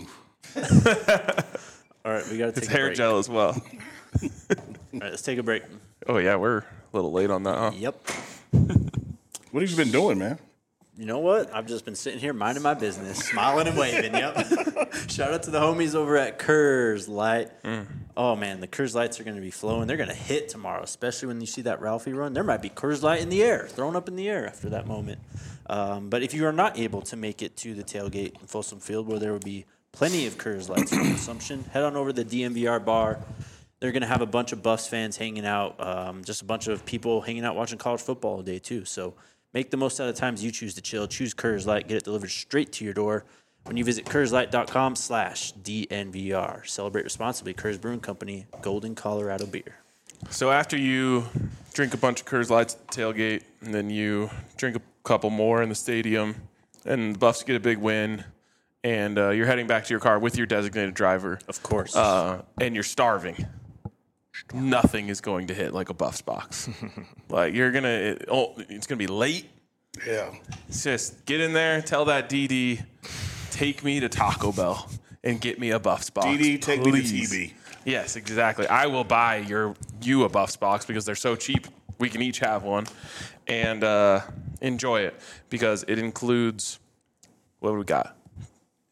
A: All right, we gotta take
D: It's
A: a
D: hair
A: break.
D: gel as well.
A: All right, let's take a break.
D: Oh yeah, we're a little late on that, huh?
A: Yep.
B: What have you been doing, man?
A: You know what? I've just been sitting here minding my business, smiling and waving. Yep. Shout out to the homies over at Kurz Light. Oh man, the Kurz Lights are going to be flowing. They're going to hit tomorrow, especially when you see that Ralphie run. There might be Kurz Light in the air, thrown up in the air after that moment. Um, but if you are not able to make it to the tailgate in Folsom Field, where there will be plenty of Kurz Lights for consumption, head on over to the D M V R bar. They're going to have a bunch of Buffs fans hanging out, um, just a bunch of people hanging out watching college football all day too. So make the most out of the times you choose to chill. Choose Kurz Light. Get it delivered straight to your door when you visit kurzlight.com slash DNVR. Celebrate responsibly. Kurz Brewing Company, Golden, Colorado beer.
D: So after you drink a bunch of Coors Lights at the tailgate, and then you drink a couple more in the stadium, and the Buffs get a big win, and uh, you're heading back to your car with your designated driver,
A: Of course.
D: uh, and you're starving. Nothing is going to hit like a Buffs box. Like you're gonna, it, oh, it's gonna be late.
B: Yeah.
D: It's just get in there, tell that D D, take me to Taco Bell and get me a Buffs box.
B: D D, take me to
D: please.
B: T B.
D: Yes, exactly. I will buy your you a Buffs box because they're so cheap. We can each have one and uh, enjoy it because it includes what do we got?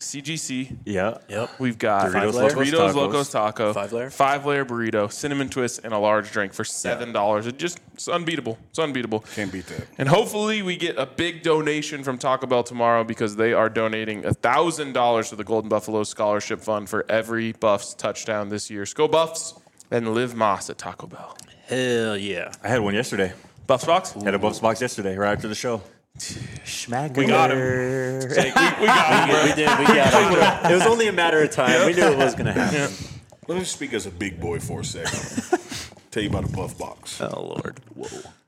D: C G C.
C: Yeah.
A: Yep.
D: We've got
C: Doritos
D: Doritos,
C: Locos
D: Doritos
C: Tacos.
D: Locos Taco,
A: Five layer?
D: five layer burrito, cinnamon twist, and a large drink for seven dollars. It just it's unbeatable. It's unbeatable.
B: Can't beat that.
D: And hopefully we get a big donation from Taco Bell tomorrow because they are donating a thousand dollars to the Golden Buffalo Scholarship Fund for every Buffs touchdown this year. So go Buffs and live Moss at Taco Bell.
A: Hell yeah.
C: I had one yesterday.
D: Buffs box?
C: Had a Buffs box yesterday, right after the show.
D: We got him. Jake, we, we got him, bro.
A: We did. We got it. It was only a matter of time. We knew it was going to happen.
B: Let me speak as a big boy for a second. Tell you about a Buff Box.
A: Oh, Lord.
B: Whoa.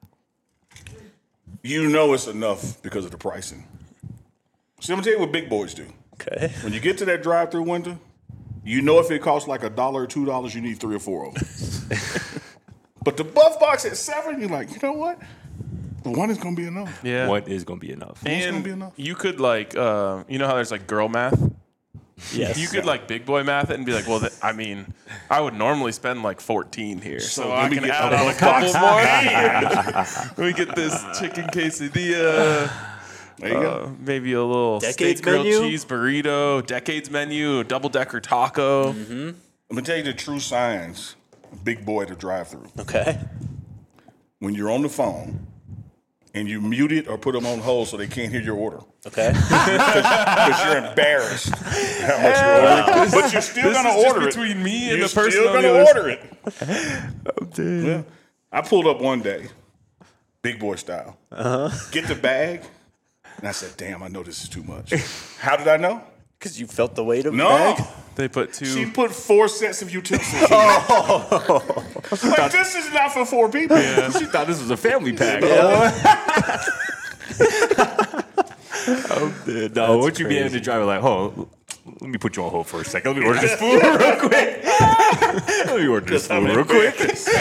B: You know it's enough because of the pricing. See, I'm going to tell you what big boys do.
A: Okay.
B: When you get to that drive-through window, you know if it costs like a dollar or two dollars, you need three or four of them. But the Buff Box at seven, you're like, you know what? The one is going to be enough.
D: Yeah.
C: What is going to be enough?
B: It's gonna
D: And
B: be enough.
D: you could like, uh, you know how there's like girl math?
A: Yes.
D: You could like big boy math it and be like, well, th- I mean, I would normally spend like fourteen here, so,
B: So
D: I
B: let me
D: can
B: get
D: add
B: a
D: on a
B: Buff
D: couple more. Let me get this chicken quesadilla,
B: There you
D: uh,
B: go.
D: maybe a little
A: Decades
D: steak grilled
A: menu?
D: cheese burrito, decades menu, double decker taco.
B: I'm going to tell you the true signs of big boy to drive through.
A: Okay.
B: When you're on the phone and you mute it or put them on hold so they can't hear your order.
A: Okay.
B: Because you're embarrassed how much you're ordering. But you're still
D: This
B: going
D: is
B: to
D: just
B: order it.
D: between me and
B: You're
D: the person
B: still
D: on
B: gonna
D: the other
B: order it. Well, I pulled up one day, big boy style. Uh-huh. Get the bag. And I said, damn, I know this is too much. How did I know?
A: Because you felt the weight of the
B: No.
A: bag?
D: They put two.
B: She put four sets of utensils in it. Like, this is not for four people.
C: She thought this was a family pack. No, would you be able to drive it like, oh, let me put you on hold for a second. Let me order this food real quick. Let me order this food real quick.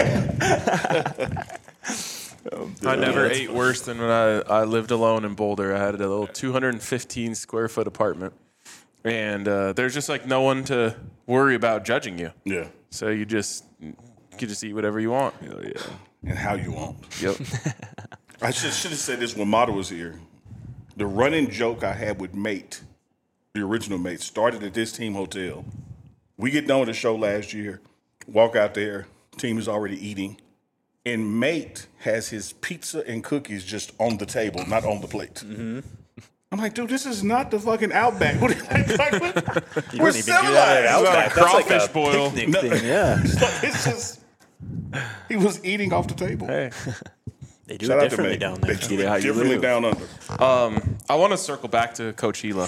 D: I never ate worse than when I, I lived alone in Boulder. I had a little two hundred fifteen square foot apartment. And uh, there's just like no one to worry about judging you.
B: Yeah.
D: So you just you can just eat whatever you want.
B: Hell yeah. And how you want.
D: Yep.
B: I should, should have said this when Mata was here. The running joke I had with Mate, the original Mate, started at this team hotel. We get done with the show last year, walk out there, team is already eating, and Mate has his pizza and cookies just on the table, not on the plate. Mm-hmm. I'm like, dude, this is not the fucking Outback. What, like, like,
A: You
B: we're
A: don't even do that at
B: civilized.
A: Outback. That's like
D: crawfish
A: a
D: boil.
A: picnic
B: No.
A: thing, yeah.
B: It's just, he was eating off the table.
D: Hey.
A: They do
B: Shout
A: it
B: out to
A: differently
B: Mate.
A: down
B: They
A: there.
B: do
C: it how
B: it
C: you
B: differently
C: live.
B: down under.
D: I want to circle back to Coach Hila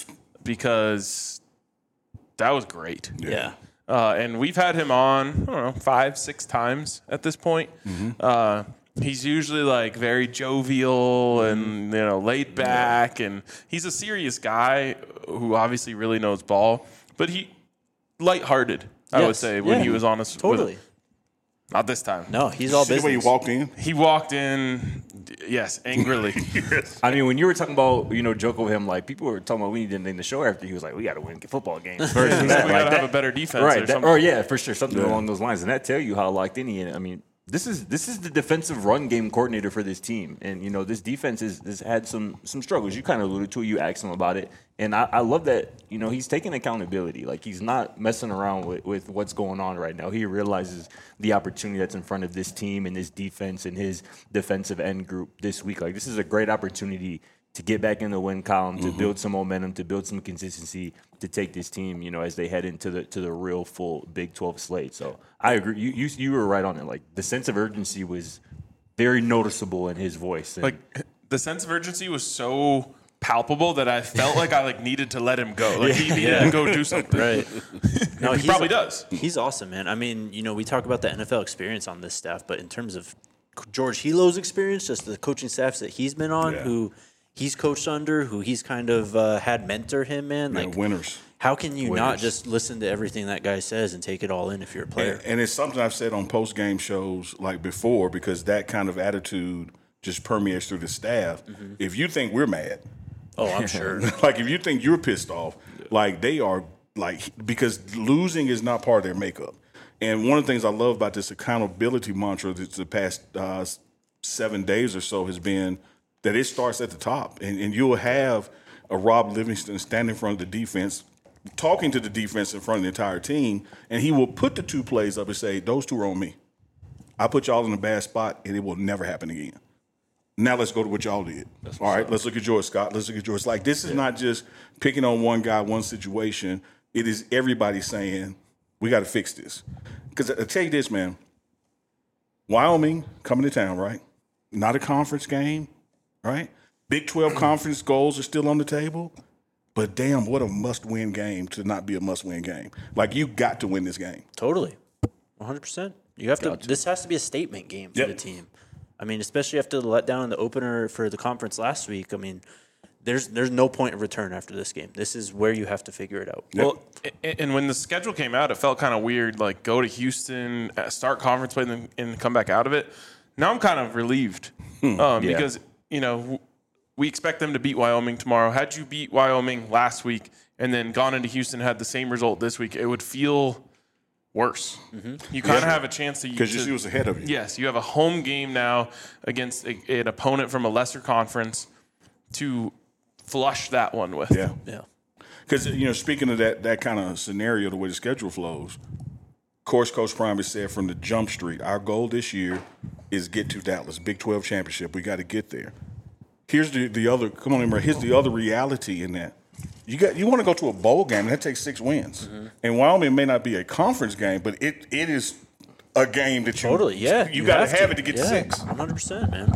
D: because that was great.
A: Yeah.
D: Uh, and we've had him on, I don't know, five, six times at this point. Uh, he's usually like very jovial and, you know, laid back. And he's a serious guy who obviously really knows ball. But he, lighthearted, I would
A: Yes.
D: say, when
A: Yeah.
D: he was on us. with-
A: Totally.
D: not this time.
A: No, he's all
B: See the way
A: business.
B: he walked in?
D: He walked in, yes, angrily.
C: I mean, when you were talking about, you know, joking with him, like, people were talking about we need to end the show after he was like, we got to win football games. Versus
D: we
C: that,
D: got
C: like
D: to
C: that-
D: have a better defense or
C: Right. That,
D: something.
C: or, yeah, for sure. Something along those lines. And that tell you how locked in he is. I mean, this is this is the defensive run game coordinator for this team. And, you know, this defense is, has had some some struggles. You kind of alluded to it. You asked him about it. And I, I love that, you know, he's taking accountability. Like, he's not messing around with, with what's going on right now. He realizes the opportunity that's in front of this team and this defense and his defensive end group this week. Like, this is a great opportunity to get back in the win column, to build some momentum, to build some consistency, to take this team, you know, as they head into the to the real full Big twelve slate. So I agree. You you, you were right on it. Like, the sense of urgency was very noticeable in his voice. And
D: Like, the sense of urgency was so palpable that I felt like I like needed to let him go. Like, he needed to go do something.
A: Right. No,
D: He
A: he's
D: probably does.
A: He's awesome, man. I mean, you know, we talk about the N F L experience on this staff, but in terms of George Hilo's experience, just the coaching staffs that he's been on,
B: Yeah.
A: who he's coached under, who he's kind of uh, had mentor him, man.
B: Yeah,
A: Like,
B: winners.
A: how can you not
B: Winners.
A: just listen to everything that guy says and take it all in if you're a player?
B: And, and it's something I've said on post game shows like before, because that kind of attitude just permeates through the staff.
A: Mm-hmm.
B: If you think we're mad,
A: Oh, I'm sure.
B: like if you think you're pissed off, like they are, like, because losing is not part of their makeup. And one of the things I love about this accountability mantra that's the past uh, seven days or so has been that it starts at the top, and, and you'll have of Rob Livingston standing in front of the defense, talking to the defense in front of the entire team, and he will put the two plays up and say, those two are on me. I put y'all in a bad spot, and it will never happen again. Now let's go to what y'all did. All right, let's look at yours, Scott. Let's look at yours. Like, this is yeah. not just picking on one guy, one situation. It is everybody saying, we got to fix this. Because I tell you this, man, Wyoming coming to town, right? Not a conference game, right? Big twelve conference goals are still on the table. But damn, what a must-win game to not be a must-win game. Like, you got to win this game.
A: Totally. one hundred percent. You have to, to. This has to be a statement game for yep. the team. I mean, especially after the letdown in the opener for the conference last week. I mean, there's there's no point of return after this game. This is where you have to figure it out.
D: Yep. Well, and when the schedule came out, it felt kind of weird, like go to Houston, start conference play, and, then, and come back out of it. Now I'm kind of relieved hmm. um, yeah. because, you know, we expect them to beat Wyoming tomorrow. Had you beat Wyoming last week and then gone into Houston and had the same result this week, it would feel worse. Mm-hmm. You kind of yeah. have a chance to –
B: Because you see what's ahead of you.
D: Yes. You have a home game now against a, an opponent from a lesser conference to flush that one with.
B: Yeah.
A: Yeah.
B: Because, you know, speaking of that that kind of scenario, the way the schedule flows, of course, Coach Prime has said from the jump street, our goal this year is get to Dallas, Big twelve championship. We got to get there. Here's the, the other – come on, here's the other reality in that. You got you want to go to a bowl game, and that takes six wins. Mm-hmm. And Wyoming may not be a conference game, but it it is a game that you
A: totally yeah
B: you, you got to have it to get
A: yeah,
B: to six.
A: one hundred percent, man.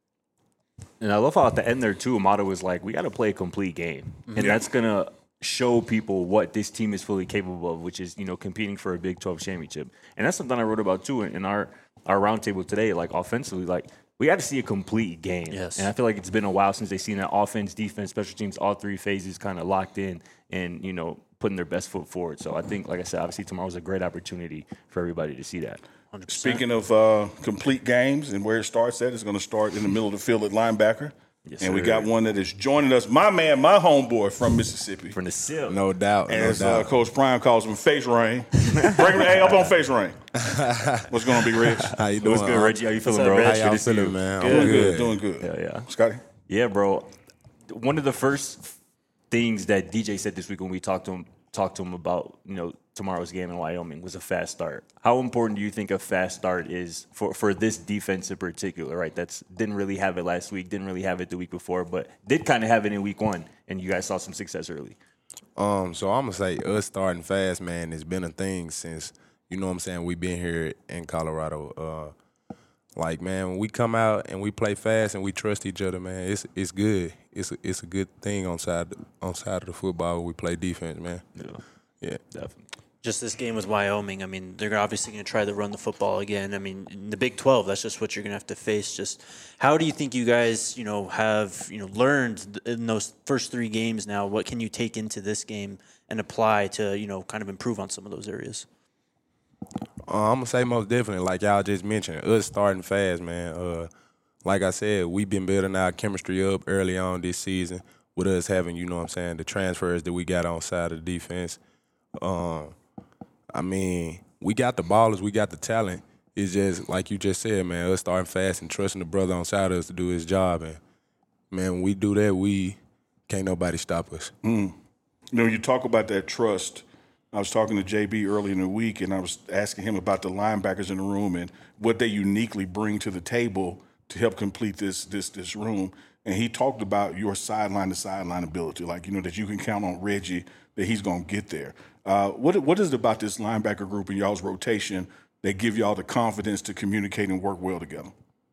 C: And I love how at the end there too, Amato was like, "We got to play a complete game," and
B: yeah.
C: that's gonna show people what this team is fully capable of, which is you know competing for a Big twelve championship. And that's something I wrote about too in our our roundtable today. Like offensively, like. We got to see a complete game.
A: Yes.
C: And I feel like it's been a while since they've seen that offense, defense, special teams, all three phases kind of locked in and, you know, putting their best foot forward. So I think, like I said, obviously tomorrow's a great opportunity for everybody to see that.
A: one hundred percent.
B: Speaking of uh, complete games and where it starts at, it's going to start in the middle of the field at linebacker.
C: Yes,
B: and
C: sir.
B: we got one that is joining us, my man, my homeboy from Mississippi.
C: From the S I P.
G: No doubt.
B: As
G: no
B: uh,
G: doubt.
B: Coach Prime calls him, Face Rain. Bring hey, up on Face Rain. What's going on, Big Rich?
G: How you doing?
C: What's good, Reggie? How you feeling,
A: up,
C: bro?
A: Reg?
G: How
C: Good
G: y'all
C: to see
G: feeling,
C: you.
G: man?
B: Doing
G: I'm
B: good. Doing good.
C: Yeah, yeah.
B: Scotty?
C: Yeah, bro. One of the first things that D J said this week when we talked to him, talked to him about, you know, tomorrow's game in Wyoming was a fast start. How important do you think a fast start is for, for this defense in particular, right? That's didn't really have it last week, didn't really have it the week before, but did kind of have it in week one, and you guys saw some success early.
G: Um, so I'm gonna say us starting fast, man, has been a thing since, you know what I'm saying, we've been here in Colorado. Uh, like, man, when we come out and we play fast and we trust each other, man, it's it's good. It's a, it's a good thing on side on side of the football when we play defense, man.
C: Yeah,
G: Yeah.
C: definitely.
A: Just this game with Wyoming, I mean, they're obviously going to try to run the football again. I mean, in the Big twelve, that's just what you're going to have to face. Just how do you think you guys, you know, have, you know, learned in those first three games now? What can you take into this game and apply to, you know, kind of improve on some of those areas?
G: Uh, I'm gonna say most definitely, like y'all just mentioned, us starting fast, man. Uh, like I said, we've been building our chemistry up early on this season with us having, you know what I'm saying, the transfers that we got on side of the defense. Um, I mean, we got the ballers, we got the talent. It's just, like you just said, man, us starting fast and trusting the brother on side of us to do his job. And, man, when we do that, we can't nobody stop us.
B: Mm. You know, you talk about that trust. I was talking to J B early in the week, and I was asking him about the linebackers in the room and what they uniquely bring to the table to help complete this this this room. And he talked about your sideline to sideline ability, like, you know, that you can count on Reggie, that he's going to get there. Uh, what what is it about this linebacker group and y'all's rotation that give y'all the confidence to communicate and work well together?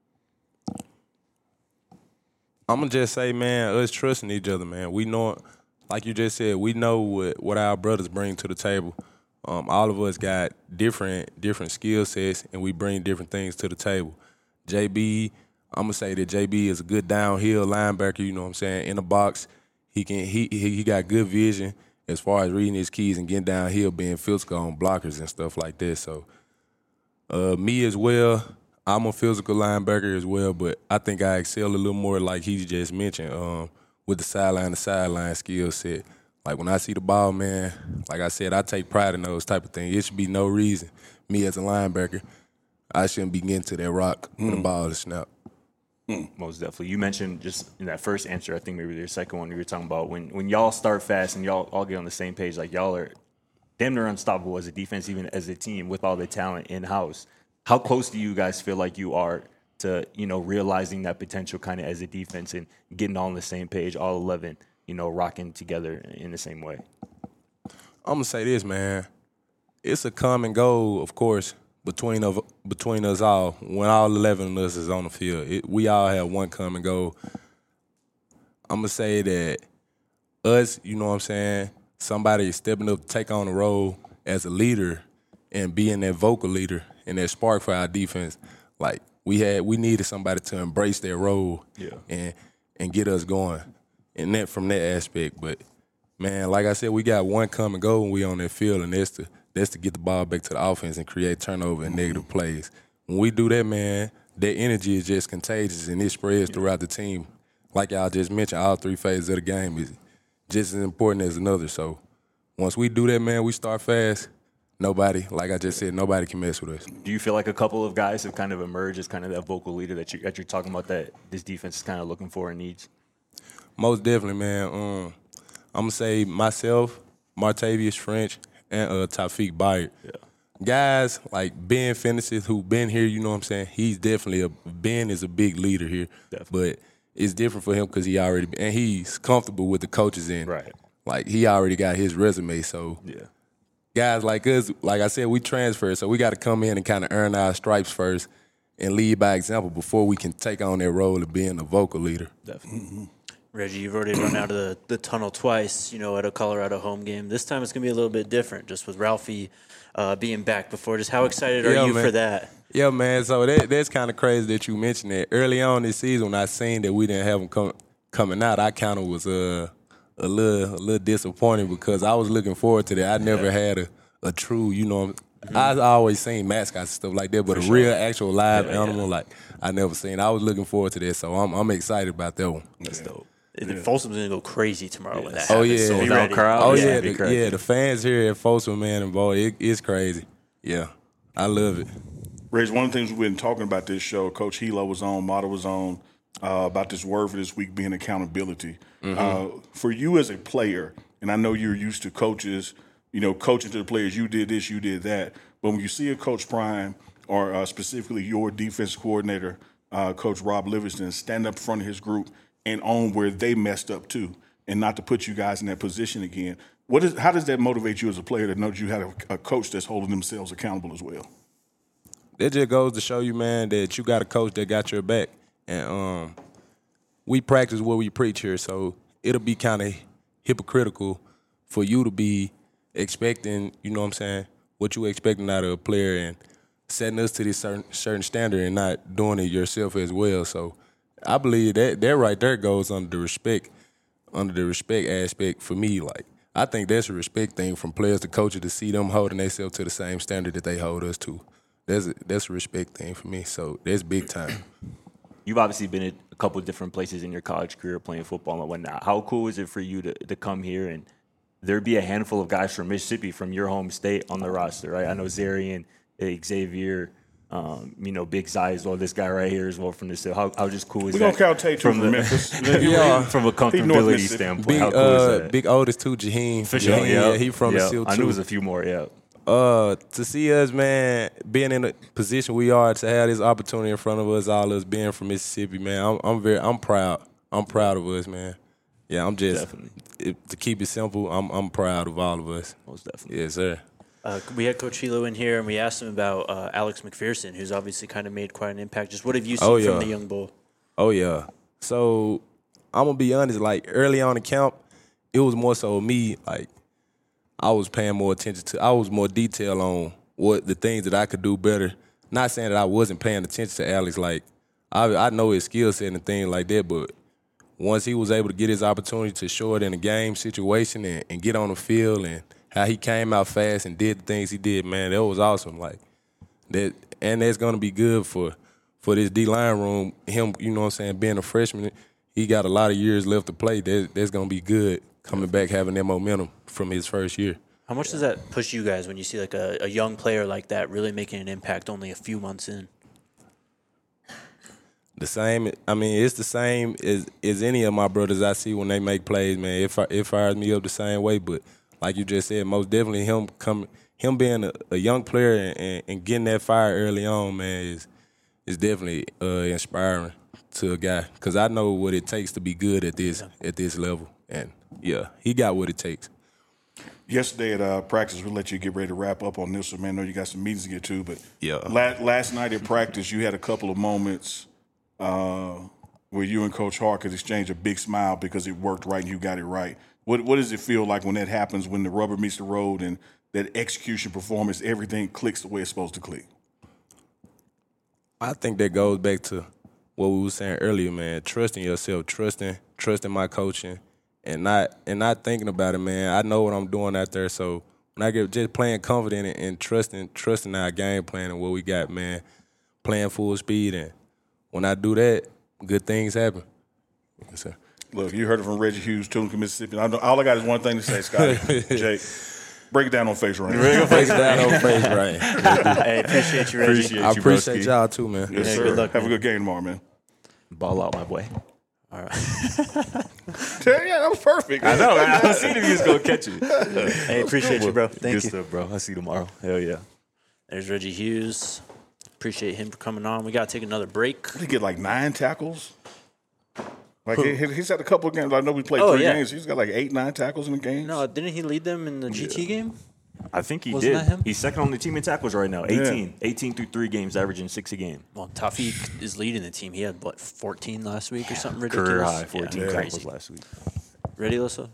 G: I'm going to just say, man, us trusting each other, man. We know, like you just said, we know what, what our brothers bring to the table. Um, all of us got different different skill sets, and we bring different things to the table. J B, I'm going to say that J B is a good downhill linebacker, you know what I'm saying, in the box. He can he he, he got good vision as far as reading his keys and getting downhill, being physical on blockers and stuff like that. So, uh, me as well, I'm a physical linebacker as well, but I think I excel a little more, like he just mentioned, um, with the sideline to sideline skill set. Like, when I see the ball, man, like I said, I take pride in those type of things. It should be no reason, me as a linebacker, I shouldn't be getting to that rock when mm. the ball is snapped.
C: Most definitely. You mentioned just in that first answer, I think maybe your second one, you were talking about when, when y'all start fast and y'all all get on the same page, like y'all are damn near unstoppable as a defense, even as a team with all the talent in-house. How close do you guys feel like you are to, you know, realizing that potential kind of as a defense and getting all on the same page, all eleven, you know, rocking together in the same way?
G: I'm going to say this, man. It's a common goal, of course, between of between us all. When all eleven of us is on the field, it, we all have one common goal. I'm going to say that us, you know what I'm saying, somebody stepping up to take on the role as a leader and being that vocal leader and that spark for our defense, like we had, we needed somebody to embrace their role
C: yeah.
G: and and get us going. And that from that aspect. But, man, like I said, we got one common goal when we on that field, and that's to, that's to get the ball back to the offense and create turnover and negative plays. When we do that, man, that energy is just contagious, and it spreads throughout the team. Like y'all just mentioned, all three phases of the game is just as important as another. So once we do that, man, we start fast. Nobody, like I just said, nobody can mess with us.
C: Do you feel like a couple of guys have kind of emerged as kind of that vocal leader that, you, that you're talking about that this defense is kind of looking for and needs?
G: Most definitely, man. Um, I'm going to say myself, Martavius French, and uh, Taufik Bayard.
C: Yeah.
G: Guys like Ben Fennesis, who been here, you know what I'm saying? He's definitely a – Ben is a big leader here.
C: Definitely.
G: But it's different for him because he already – and he's comfortable with the coaches in.
C: Right.
G: Like, he already got his resume, so –
C: yeah.
G: Guys like us, like I said, we transfer, so we got to come in and kind of earn our stripes first and lead by example before we can take on that role of being a vocal leader.
C: Definitely.
A: Mm-hmm. Reggie, you've already run out of the, the tunnel twice, you know, at a Colorado home game. This time it's going to be a little bit different, just with Ralphie uh, being back before. Just how excited are
G: yeah,
A: you
G: man.
A: for that?
G: Yeah, man, so that, that's kind of crazy that you mentioned that. Early on this season, when I seen that we didn't have them come, coming out, I kind of was uh, a little a little disappointed because I was looking forward to that. I never yeah. had a a true, you know, mm-hmm. I always seen mascots and stuff like that, but For a sure. real, actual live yeah, animal, yeah. like, I never seen. I was looking forward to that, so I'm I'm excited about that one.
A: That's yeah. dope. Yeah. Folsom's going to go crazy tomorrow yeah. when that
G: oh,
A: happens.
G: Yeah.
A: So
G: be
A: ready.
C: Crowd.
G: Oh,
C: yeah,
G: yeah, the, yeah, the fans here at Folsom, man, and boy, it, it's crazy. Yeah, I love it.
B: Reg, one of the things we've been talking about this show, Coach Hilo was on, Mata was on, uh, about this word for this week being accountability. Mm-hmm. Uh, for you as a player, and I know you're used to coaches – you know, coaching to the players, you did this, you did that. But when you see a Coach Prime or uh, specifically your defense coordinator, uh, Coach Rob Livingston, stand up in front of his group and own where they messed up too, and not to put you guys in that position again, what is? How does that motivate you as a player to know that you had a, a coach that's holding themselves accountable as well?
G: That just goes to show you, man, that you got a coach that got your back. And um, we practice what we preach here, so it'll be kind of hypocritical for you to be expecting, you know what I'm saying, what you expecting out of a player and setting us to this certain certain standard and not doing it yourself as well. So I believe that that right there goes under the respect, under the respect aspect for me. Like, I think that's a respect thing from players to coaches to see them holding themselves to the same standard that they hold us to. That's a, that's a respect thing for me. So that's big time.
C: You've obviously been at a couple of different places in your college career playing football and whatnot. How cool is it for you to, to come here and there'd be a handful of guys from Mississippi, from your home state, on the roster, right? I know Zarian, Xavier, um, you know, Big Zai as well. This guy right here as well from this. How, how just cool is
B: we
C: that?
B: We gonna count Tate from the, Memphis.
C: yeah, from a comfortability standpoint.
G: Big,
C: how cool
G: uh,
C: is that?
G: Big Otis too, Jaheim.
C: For sure,
G: Jaheim,
C: yeah.
G: yeah. He from
C: yeah.
G: the SEAL too.
C: I knew it was a few more, yeah.
G: Uh, to see us, man, being in the position we are, to have this opportunity in front of us, all us being from Mississippi, man, I'm, I'm very, I'm proud. I'm proud of us, man. Yeah, I'm just it, to keep it simple. I'm I'm proud of all of us.
C: Most definitely,
G: yes, sir.
A: Uh, we had Coach Hilo in here, and we asked him about uh, Alex McPherson, who's obviously kind of made quite an impact. Just what have you seen
G: oh, yeah.
A: from the young bull?
G: Oh yeah. So I'm gonna be honest. Like early on in camp, it was more so me. Like I was paying more attention to. I was more detailed on what the things that I could do better. Not saying that I wasn't paying attention to Alex. Like I I know his skill set and things like that, but once he was able to get his opportunity to show it in a game situation and, and get on the field and how he came out fast and did the things he did, man, that was awesome. Like that, and that's gonna be good for for this D-line room. Him, you know what I'm saying, being a freshman, he got a lot of years left to play. That, that's gonna be good coming back, having that momentum from his first year.
A: How much does that push you guys when you see like a, a young player like that really making an impact only a few months in?
G: The same. I mean, it's the same as, as any of my brothers I see when they make plays, man. It, fi- it fires me up the same way. But like you just said, most definitely him coming, him being a, a young player and, and, and getting that fire early on, man, is is definitely uh, inspiring to a guy. Because I know what it takes to be good at this yeah. at this level. And, yeah, he got what it takes.
B: Yesterday at uh, practice, we'll let you get ready to wrap up on this one, man. I know you got some meetings to get to, but
G: yeah.
B: la- last night at practice, you had a couple of moments uh, where you and Coach Hart could exchange a big smile because it worked right and you got it right. What What does it feel like when that happens, when the rubber meets the road and that execution performance, everything clicks the way it's supposed to click?
G: I think that goes back to what we were saying earlier, man. Trusting yourself, trusting, trusting my coaching. And not and not thinking about it, man. I know what I'm doing out there, so when I get just playing confident and, and trusting trusting our game plan and what we got, man, playing full speed, and when I do that, good things happen. Yes,
B: Look, you heard it from Reggie Hughes, Tunica, Mississippi. I know, all I got is one thing to say, Scotty. Jake, break it down on face right.
G: Break it down on face right.
A: Hey, appreciate you, Reggie.
C: Appreciate
G: I
C: you,
G: appreciate
C: broski.
G: y'all too, man.
B: Yes,
A: Yeah,
B: sir.
A: good luck,
B: Have
A: man.
B: a good game tomorrow, man.
C: Ball out, my boy.
A: All right.
B: Yeah, that was perfect.
C: I know. I was seeing if he was going to catch it.
A: Hey, appreciate you, bro. Thank
C: Good
A: you.
C: stuff, bro. I'll see you tomorrow. Hell yeah.
A: There's Reggie Hughes. Appreciate him for coming on. We got to take another break.
B: Did he get like nine tackles? Like he, he's had a couple of games. I know we played
A: Oh,
B: three
A: yeah.
B: games. He's got like eight, nine tackles in the game.
A: No, didn't he lead them in the G T game?
C: I think he
A: Wasn't
C: did.
A: that him?
C: He's second on the team in tackles right now. eighteen. eighteen through three games, averaging six a game.
A: Well, Taufik is leading the team. He had, what, fourteen last week or something ridiculous?
C: Career high, fourteen
A: Yeah,
C: tackles
A: crazy.
C: last week.
A: Ready, Alyssa?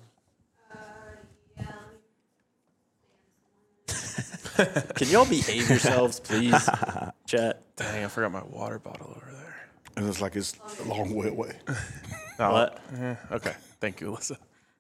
A: Can y'all behave yourselves, please? Chat.
D: Dang, I forgot my water bottle over there.
B: And it's like it's a long way away.
D: No,
A: What?
D: eh, okay. Thank you, Alyssa.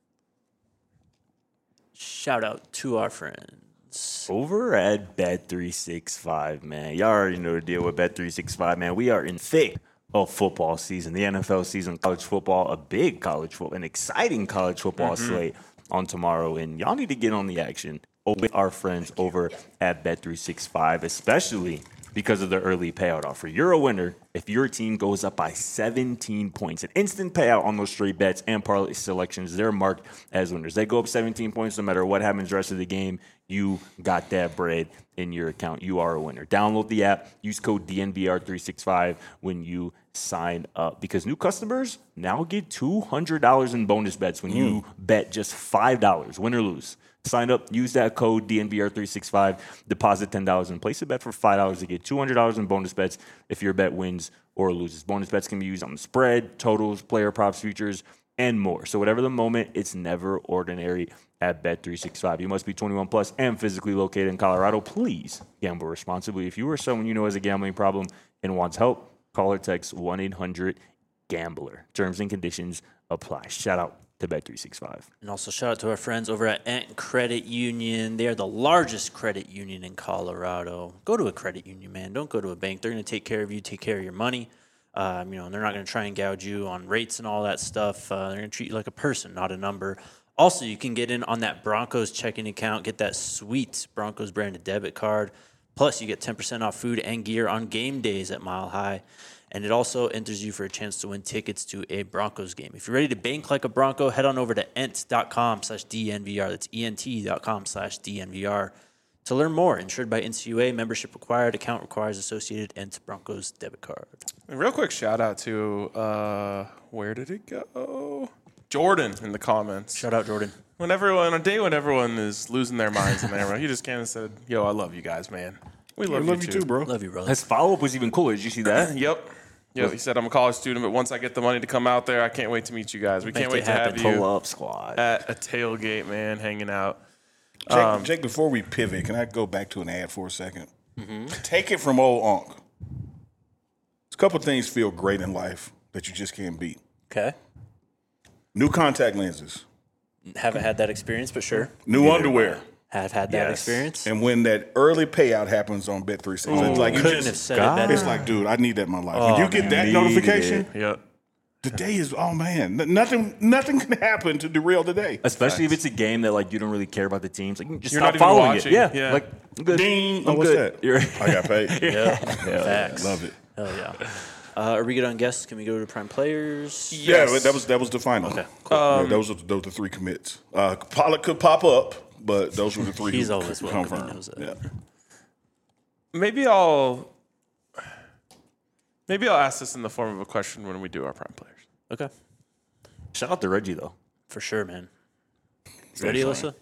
A: Shout out to our friends.
C: Over at Bet three sixty-five, man. Y'all already know the deal with Bet three sixty-five, man. We are in thick of football season, the N F L season, college football, a big college football, an exciting college football mm-hmm. slate on tomorrow. And y'all need to get on the action with our friends over at Bet three sixty-five, especially because of the early payout offer. You're a winner if your team goes up by seventeen points. An instant payout on those straight bets and parlay selections. They're marked as winners. They go up seventeen points no matter what happens the rest of the game. You got that bread in your account. You are a winner. Download the app. Use code D N V R three sixty-five when you sign up, because new customers now get two hundred dollars in bonus bets when mm. you bet just five dollars, win or lose. Sign up, use that code D N V R three sixty-five, deposit ten dollars, and place a bet for five dollars to get two hundred dollars in bonus bets if your bet wins or loses. Bonus bets can be used on the spread, totals, player props, futures, and more. So whatever the moment, it's never ordinary at Bet three sixty-five. You must be twenty-one plus and physically located in Colorado. Please gamble responsibly. If you or someone you know has a gambling problem and wants help, call or text one eight hundred gambler. Terms and conditions apply. Shout out to Bet three sixty-five.
A: And also shout out to our friends over at Ant Credit Union. They are the largest credit union in Colorado. Go to a credit union, man. Don't go to a bank. They're going to take care of you, take care of your money. Um, you know, and they're not going to try and gouge you on rates and all that stuff. Uh, they're going to treat you like a person, not a number. Also, you can get in on that Broncos checking account, get that sweet Broncos branded debit card. Plus, you get ten percent off food and gear on game days at Mile High. And it also enters you for a chance to win tickets to a Broncos game. If you're ready to bank like a Bronco, head on over to ent.com slash DNVR. That's ent.com slash DNVR to learn more. Insured by N C U A, membership required, account requires associated Ent Broncos debit card.
D: A real quick shout out to, uh, where did it go? Jordan in the comments.
A: Shout out, Jordan.
D: When everyone, on a day when everyone is losing their minds in there, he just came and said, yo, I love you guys, man. We love,
B: We
D: you,
B: love you too, bro.
A: Love you, brother.
C: His follow-up was even cooler. Did you see that?
D: Yep. Yep. He said, I'm a college student, but once I get the money to come out there, I can't wait to meet you guys. We
A: Make
D: can't
A: it
D: wait to
A: happen.
D: have you
C: Pull up squad.
D: at a tailgate, man, hanging out.
B: Jake,
D: Um,
B: Jake, before we pivot, can I go back to an ad for a second? Mm-hmm. Take it from old Unc. A couple things feel great in life that you just can't beat.
A: Okay.
B: New contact lenses,
A: Haven't had that experience, but sure.
B: new underwear,
A: Have had that
C: Yes.
A: experience.
B: and when that early payout happens on Bet three sixty, it's like you
A: Couldn't have
B: just,
A: said it better.
B: it's like, dude, I need that in my life. when you get that
C: Needed
B: notification,
C: it.
D: Yep.
B: the day is, oh man, n- nothing, nothing can happen to derail the day.
C: Especially if it's a game that like you don't really care about the teams. Like you can just
D: You're
C: stop
D: not even
C: following
D: watching.
C: it. Yeah.
D: Yeah.
C: Like I'm good.
B: Ding!
C: I'm
B: Oh, what's
C: good.
B: that?
C: You're
B: I got paid.
A: Yeah. Facts.
B: Love it.
A: Hell yeah. Uh, are we good on guests? Can we go to prime players?
B: Yeah, that was that was the final.
A: Okay, cool.
B: Yeah, those are those are the three commits. Uh, Pollock could pop up, but those were the three.
A: He's
B: who
A: always welcome. He
B: confirmed.
A: knows that.
B: Yeah.
D: Maybe I'll maybe I'll ask this in the form of a question when we do our prime players.
A: Okay,
C: Shout out to Reggie though.
A: for sure, man. Ready, Alyssa?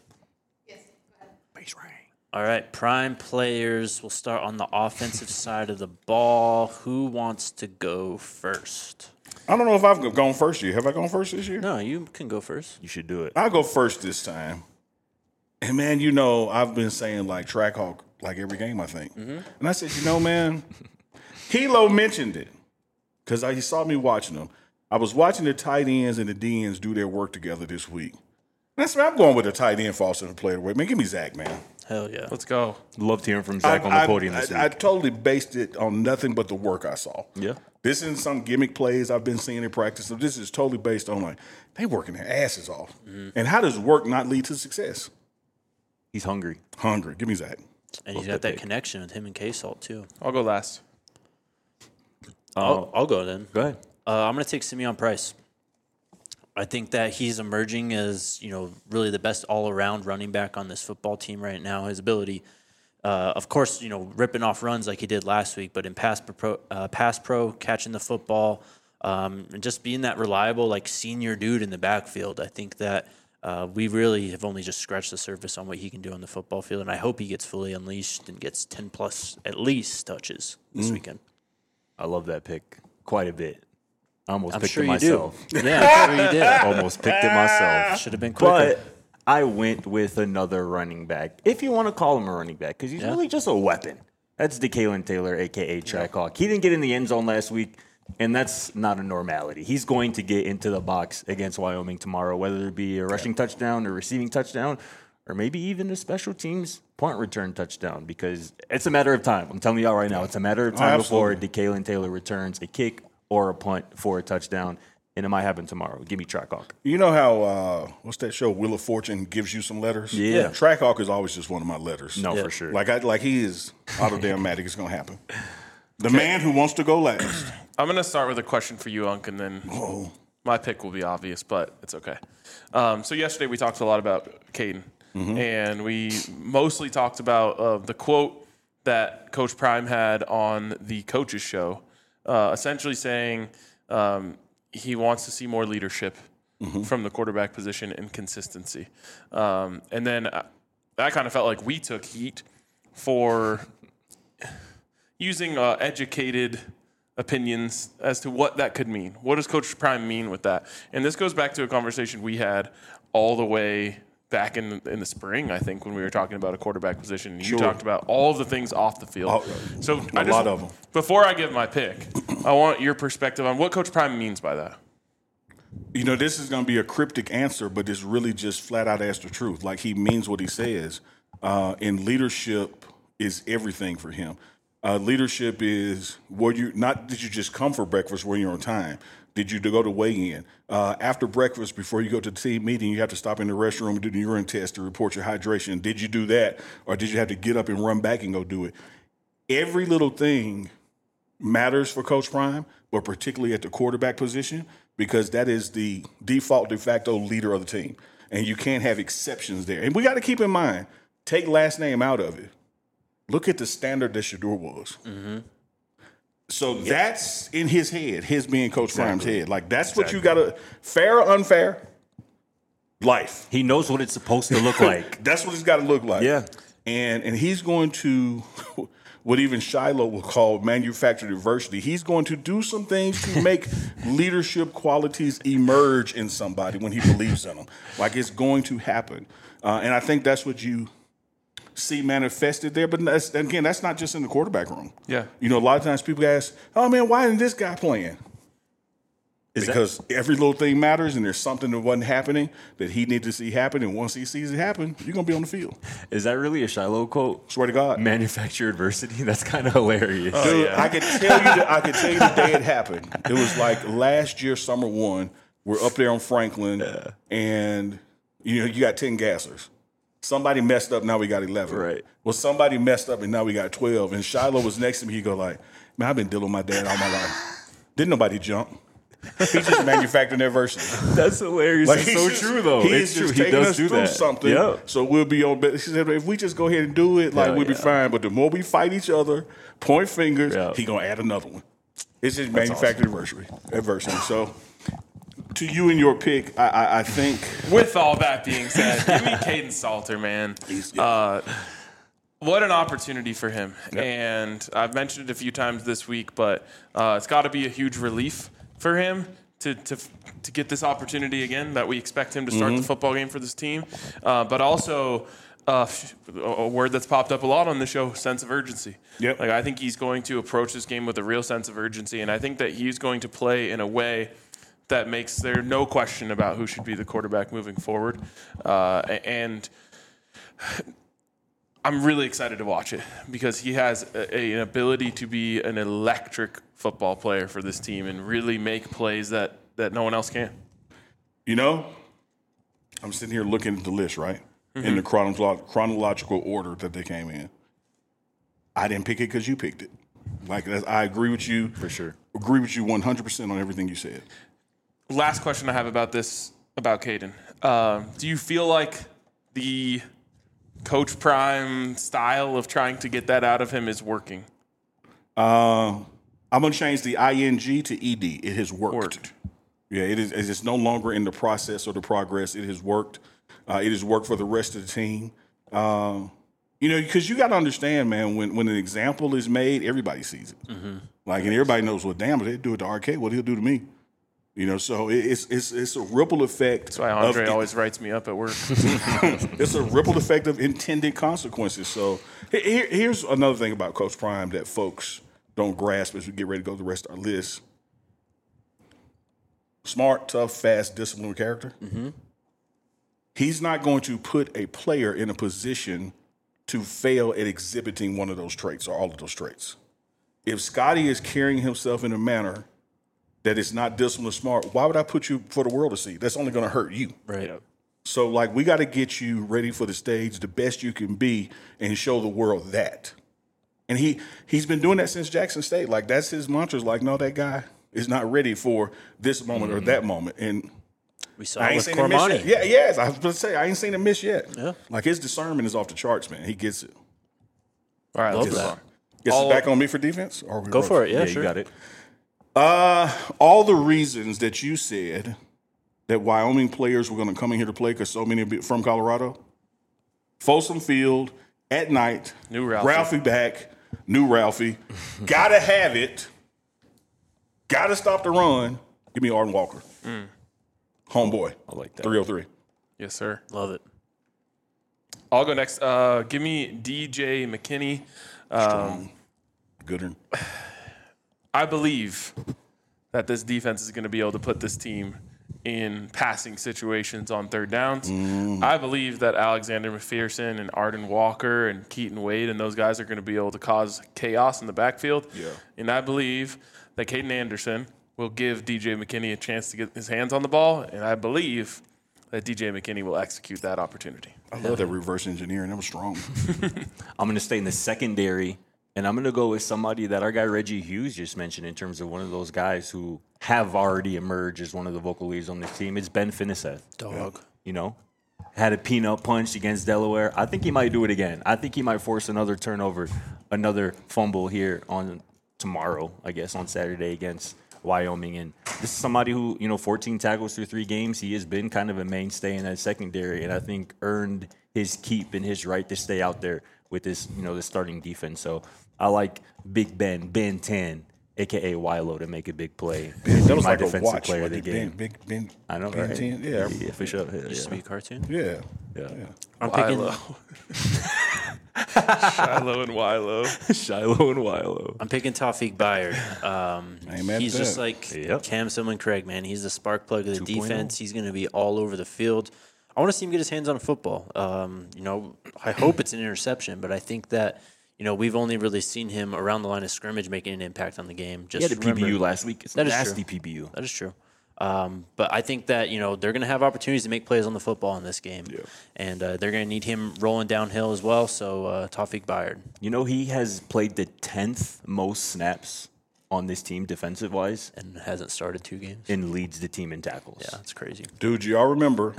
C: Base rank.
A: All right, prime players. We'll start on the offensive side of the ball. Who wants to go first?
B: I don't know if I've gone first year. Have I gone first this year?
A: No, you can go first.
C: You should do it.
B: I'll go first this time. And man, you know, I've been saying like track hawk like every game, I think.
A: Mm-hmm.
B: And I said, you know, man, Hilo mentioned it because he saw me watching them. I was watching the tight ends and the D ends do their work together this week. That's why I'm going with the tight end for offensive player. Man, give me Zach, man.
A: Hell yeah.
D: Let's go.
C: Loved hearing from Zach on the
B: I,
C: podium this
B: I,
C: week.
B: I totally based it on nothing but the work I saw.
C: Yeah.
B: This isn't some gimmick plays I've been seeing in practice. So this is totally based on like they working their asses off.
A: Mm-hmm.
B: And how does work not lead to success?
C: He's hungry.
B: Hungry. Give me Zach.
A: And he's got that connection with him and K-Salt, too.
D: I'll go last.
A: I'll, I'll go then.
C: Go ahead.
A: Uh, I'm going to take Simeon Price. I think that he's emerging as, you know, really the best all-around running back on this football team right now. His ability, uh, of course, you know, ripping off runs like he did last week, but in pass pro, uh, pass pro, catching the football, um, and just being that reliable, like, senior dude in the backfield. I think that uh, we really have only just scratched the surface on what he can do on the football field, and I hope he gets fully unleashed and gets ten-plus, at least, touches this
B: Mm.
A: weekend.
C: I love that pick quite a bit. I almost
A: I'm
C: picked
A: sure
C: it
A: you
C: myself.
A: do. Yeah, I'm sure you did.
C: Almost picked it myself.
A: Should have been quicker.
C: But I went with another running back, if you want to call him a running back, because he's
A: Yeah.
C: really just a weapon. That's DeKalen Taylor, a k a. Track Hawk. He didn't get in the end zone last week, and that's not a normality. He's going to get into the box against Wyoming tomorrow, whether it be a rushing touchdown or receiving touchdown, or maybe even a special teams punt return touchdown, because it's a matter of time. I'm telling y'all right now, it's a matter of time before DeKalen Taylor returns a kick or a punt for a touchdown, and it might happen tomorrow. Give me Track Hawk.
B: You know how uh, what's that show? Wheel of Fortune gives you some letters.
C: Yeah.
B: Track hawk is always just one of my letters.
C: No,
A: Yeah.
C: for sure.
B: Like I like he is automatic. It's gonna happen. The man who wants to go last.
D: I'm going to start with a question for you, Unc, and then my pick will be obvious, but it's okay. Um, so yesterday we talked a lot about Caden, and we mostly talked about uh, the quote that Coach Prime had on the coaches show, uh, essentially saying um, he wants to see more leadership from the quarterback position and consistency. Um, and then I, I kind of felt like we took heat for using uh, educated opinions as to what that could mean. What does Coach Prime mean with that? And this goes back to a conversation we had all the way back in in the spring, I think, when we were talking about a quarterback position. You
B: Sure.
D: talked about all of the things off the field.
B: Oh,
D: so
B: a
D: I just,
B: lot of them.
D: Before I give my pick, I want your perspective on what Coach Prime means by that.
B: You know, this is going to be a cryptic answer, but it's really just flat out ask the truth. Like he means what he says. Uh, and leadership is everything for him. Uh, leadership is where you not did you just come for breakfast when you're on time? Did you go to weigh in? Uh, after breakfast, before you go to the team meeting, you have to stop in the restroom and do the urine test to report your hydration. Did you do that? Or did you have to get up and run back and go do it? Every little thing matters for Coach Prime, but particularly at the quarterback position, because that is the default de facto leader of the team. And you can't have exceptions there. And we got to keep in mind, take last name out of it. Look at the standard that Shedeur was. Mm-hmm. So that's in his head, his being Coach
C: Exactly.
B: Prime's head. Like, that's what you
C: Exactly.
B: got to, fair or unfair, life.
C: He knows what it's supposed to look like.
B: That's what it's got to look like.
C: Yeah.
B: And and he's going to, what even Shiloh will call manufactured adversity. He's going to do some things to make leadership qualities emerge in somebody when he believes in them. Like, it's going to happen. Uh, and I think that's what you see manifested there. But that's, again, that's not just in the quarterback room.
D: Yeah.
B: You know, a lot of times people ask, oh, man, why isn't this guy playing?
C: Is that-
B: Because every little thing matters, and there's something that wasn't happening that he needs to see happen. And once he sees it happen, you're going to be on the field.
C: Is that really a Shiloh quote?
B: Swear to God.
C: Manufacture adversity? That's kind of hilarious.
B: Dude, I could tell you the, I could tell you the day it happened. It was like last year, summer one. We're up there on Franklin, and you know you got ten gassers. Somebody messed up, now we got eleven.
C: Right.
B: Well, somebody messed up, and now we got twelve. And Shiloh was next to me. He go like, "Man, I've been dealing with my dad all my life." Didn't nobody jump. He's just manufacturing adversity.
C: That's hilarious.
B: Like,
C: it's
B: he's
C: so
B: just-
C: true, though.
B: He
C: It's
B: is
C: true.
B: just
C: He
B: taking
C: does
B: us
C: do
B: through
C: that.
B: something.
C: Yep.
B: So we'll be on. He said, if we just go ahead and do it, like
C: Hell
B: we'll be
C: yeah.
B: fine. But the more we fight each other, point fingers,
C: Yeah.
B: he gonna add another one. It's just manufactured adversity. Adversity. So to you and your pick, I, I, I think
D: With all that being said, give me Caden Salter, man. Uh, what an opportunity for him. And I've mentioned it a few times this week, but uh, it's got to be a huge relief for him to, to to get this opportunity again, that we expect him to start the football game for this team. Uh, but also, uh, a word that's popped up a lot on the show, sense of urgency.
B: Yep.
D: Like, I think he's going to approach this game with a real sense of urgency, and I think that he's going to play in a way that makes there no question about who should be the quarterback moving forward. Uh, and I'm really excited to watch it because he has a, a, an ability to be an electric football player for this team and really make plays that, that no one else can.
B: you know, I'm sitting here looking at the list, right,
C: Mm-hmm.
B: in the chronolo- chronological order that they came in. I didn't pick it because you picked it. Like that's, I agree with you
C: For sure.
B: Agree with you one hundred percent on everything you said.
D: Last question I have about this, about Caden. Um, do you feel like the Coach Prime style of trying to get that out of him is working?
B: Um, I'm gonna change the ing to ed. It has worked.
D: Worked.
B: Yeah, it is. It's no longer in the process or the progress. It has worked. Uh, it has worked for the rest of the team. Um, you know, because you got to understand, man. When when an example is made, everybody sees it.
A: Mm-hmm.
B: Like, and everybody knows, well, damn, if they do it to R K, what he'll do to me. You know, so it, it's it's it's a ripple effect.
D: That's why Andre
B: of,
D: always writes me up at work.
B: It's a ripple effect of intended consequences. So here, here's another thing about Coach Prime that folks don't grasp as we get ready to go to the rest of our list. Smart, tough, fast, disciplined character.
A: Mm-hmm.
B: He's not going to put a player in a position to fail at exhibiting one of those traits or all of those traits. If Scotty is carrying himself in a manner that is not disciplined or smart, why would I put you for the world to see? That's only going to hurt you.
A: Right.
B: So, like, we got to get you ready for the stage the best you can be and show the world that. And he, he's been doing that since Jackson State. Like, that's his mantra. Is like, no, that guy is not ready for this moment
A: Mm-hmm.
B: or that moment. And
A: We saw
B: I
A: it
B: ain't
A: with
B: seen him miss
A: Cormani.
B: yet. Yeah, yes. I was going to say, I ain't seen him miss yet.
A: Yeah.
B: Like, his discernment is off the charts, man. He gets it.
D: All right,
A: Love
D: let's move
A: that.
D: on.
B: Guess
D: All-
B: it's back on me for defense? Or are we
A: Go
B: rolling?
A: for it. Yeah,
C: Yeah,
A: sure.
C: you got it.
B: Uh, all the reasons that you said that Wyoming players were going to come in here to play because so many be- from Colorado. Folsom Field at night.
D: New Ralphie.
B: Ralphie back. New Ralphie. Gotta have it. Gotta stop the run. Give me Arden Walker. Homeboy.
C: I like that.
B: three oh three.
D: Yes, sir.
A: Love it.
D: I'll go next. Uh, give me D J McKinney. Um,
B: Gooder.
D: I believe that this defense is going to be able to put this team in passing situations on third downs. I believe that Alexander McPherson and Arden Walker and Keaton Wade and those guys are going to be able to cause chaos in the backfield.
B: Yeah.
D: And I believe that Caden Anderson will give D J McKinney a chance to get his hands on the ball, and I believe that D J McKinney will execute that opportunity.
B: I love that reverse engineering. That was strong.
C: I'm going to stay in the secondary, and I'm going to go with somebody that our guy Reggie Hughes just mentioned in terms of one of those guys who have already emerged as one of the vocal leaders on this team. It's Ben Finiseth.
A: Dog.
C: You know, had a peanut punch against Delaware. I think he might do it again. I think he might force another turnover, another fumble here on tomorrow, I guess, on Saturday against Wyoming. And this is somebody who, you know, fourteen tackles through three games. He has been kind of a mainstay in that secondary, and I think earned his keep and his right to stay out there with this, you know, the starting defense. So I like Big Ben, Ben ten, a k a. Wilo, to make a big play.
B: That was
C: my
B: like a
C: defensive
B: watch.
C: player
B: Like
C: of the
B: Ben,
C: game.
B: Big Ben.
C: I know,
B: Ben
C: right?
B: ten. Yeah.
C: yeah, for sure. Yeah,
A: Used to be a
C: yeah.
A: cartoon.
B: Yeah.
C: yeah.
A: I'm picking.
D: Shiloh and Wilo.
C: Shiloh and Wilo.
A: I'm picking Tawfiq Bayard. Um,
B: I ain't mad at
A: he's just
B: that.
A: like
C: Yep.
A: Cam Sumlin Craig, man. He's the spark plug of the
C: two point oh.
A: defense. He's going to be all over the field. I want to see him get his hands on a football. Um, you know, I hope it's an interception, but I think that, you know, we've only really seen him around the line of scrimmage making an impact on the game. Just
C: He had a P B U
A: remember-
C: last week. It's
A: That is
C: nasty
A: true.
C: P B U.
A: That is true. Um, but I think that, you know, they're going to have opportunities to make plays on the football in this game.
B: Yeah.
A: And uh, they're going to need him rolling downhill as well. So uh, Tawfiq Bayard.
C: You know, he has played the tenth most snaps on this team defensive wise,
A: And hasn't started two games.
C: and leads the team in tackles.
A: Yeah, that's crazy.
B: Dude, y'all remember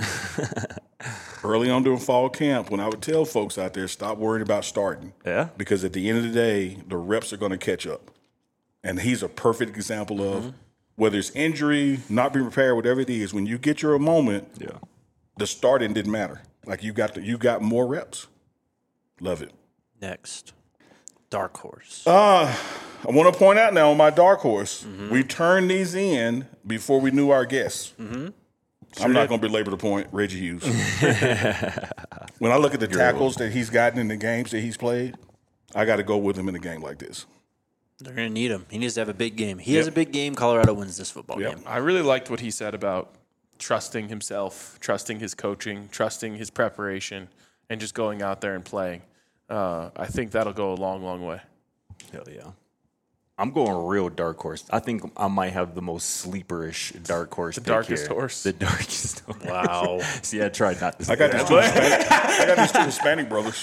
B: early on during fall camp when I would tell folks out there, stop worrying about starting.
C: Yeah.
B: Because at the end of the day, the reps are going to catch up. And he's a perfect example of
C: Mm-hmm.
B: whether it's injury, not being prepared, whatever it is, when you get your moment,
C: Yeah.
B: the starting didn't matter. Like you got the, you got more reps. Love it.
A: Next, dark horse.
B: I want to point out now on my dark horse,
A: Mm-hmm.
B: we turned these in before we knew our guests.
A: Mm-hmm.
B: I'm not going to belabor the point, Reggie Hughes. When I look at the tackles that he's gotten in the games that he's played, I got to go with him in a game like this.
A: They're going to need him. He needs to have a big game. He
B: Yep.
A: has a big game. Colorado wins this football
B: Yep.
A: game.
D: I really liked what he said about trusting himself, trusting his coaching, trusting his preparation, and just going out there and playing. Uh, I think that'll go a long, long way.
C: Hell yeah. I'm going real dark horse. I think I might have the most sleeperish dark horse. The
D: darkest horse?
C: The darkest horse.
A: Wow.
C: See, I tried not to say
B: I got
C: that.
B: these two Hispanic, I got these two Hispanic brothers.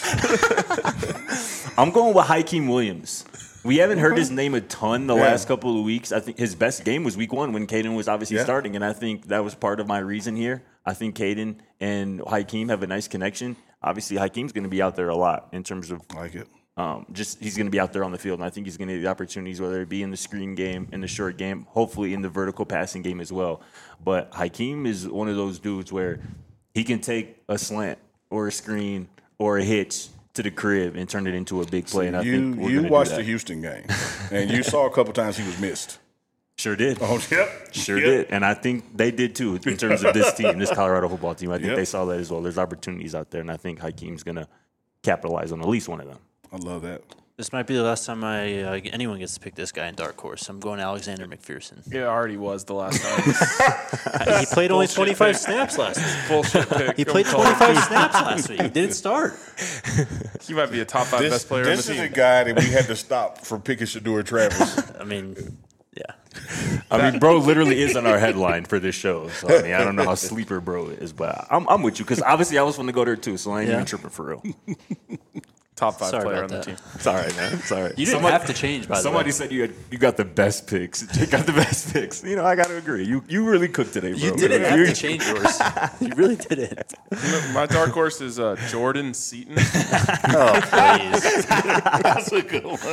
C: I'm going with Hakeem Williams. We haven't heard his name a ton the
B: Yeah.
C: last couple of weeks. I think his best game was week one when Caden was obviously
B: Yeah.
C: starting, and I think that was part of my reason here. I think Caden and Hakeem have a nice connection. Obviously, Hakeem's going to be out there a lot in terms of
B: I like it.
C: um, just he's going to be out there on the field, and I think he's going to get the opportunities, whether it be in the screen game, in the short game, hopefully in the vertical passing game as well. But Hakeem is one of those dudes where he can take a slant or a screen or a hitch to the crib and turn it into a big play. And I
B: You
C: think we're
B: you
C: gonna
B: watched
C: do
B: the
C: that.
B: Houston game, and you saw a couple times he was missed.
C: Sure did.
B: Oh, yep.
C: Sure
B: Yep.
C: did. And I think they did too in terms of this team, this Colorado football team. I think
B: Yep.
C: they saw that as well. There's opportunities out there, and I think Hakeem's going to capitalize on at least one of them.
B: I love that.
A: This might be the last time I uh, anyone gets to pick this guy in dark horse. I'm going Alexander McPherson.
D: It already was the last time.
A: He played only twenty-five snaps last week.
D: Bullshit pick.
A: He played twenty-five snaps last week. He didn't start.
D: He might be a top five
B: This,
D: best player
B: this
D: on
B: is
D: the
B: a
D: team.
B: guy that we had to stop from picking Shador Travis.
A: I mean, yeah.
C: I mean, bro literally is on our headline for this show. So, I mean, I don't know how sleeper bro is, but I'm, I'm with you because obviously I was going to go there too, so I ain't
A: Yeah.
C: even tripping for real.
D: Top five
A: Sorry
D: player on
A: about
D: the
A: that.
D: team.
C: It's all right, man. It's all right.
A: You didn't
C: Somebody-
A: have to change, by the way.
C: Somebody said you had, you got the best picks. You got the best picks. You know, I got to agree. You you really cooked today, bro.
A: You didn't have
C: You-
A: to change yours. You really didn't.
D: My dark horse is uh, Jordan Seaton.
A: Oh, please.
B: That's a good one.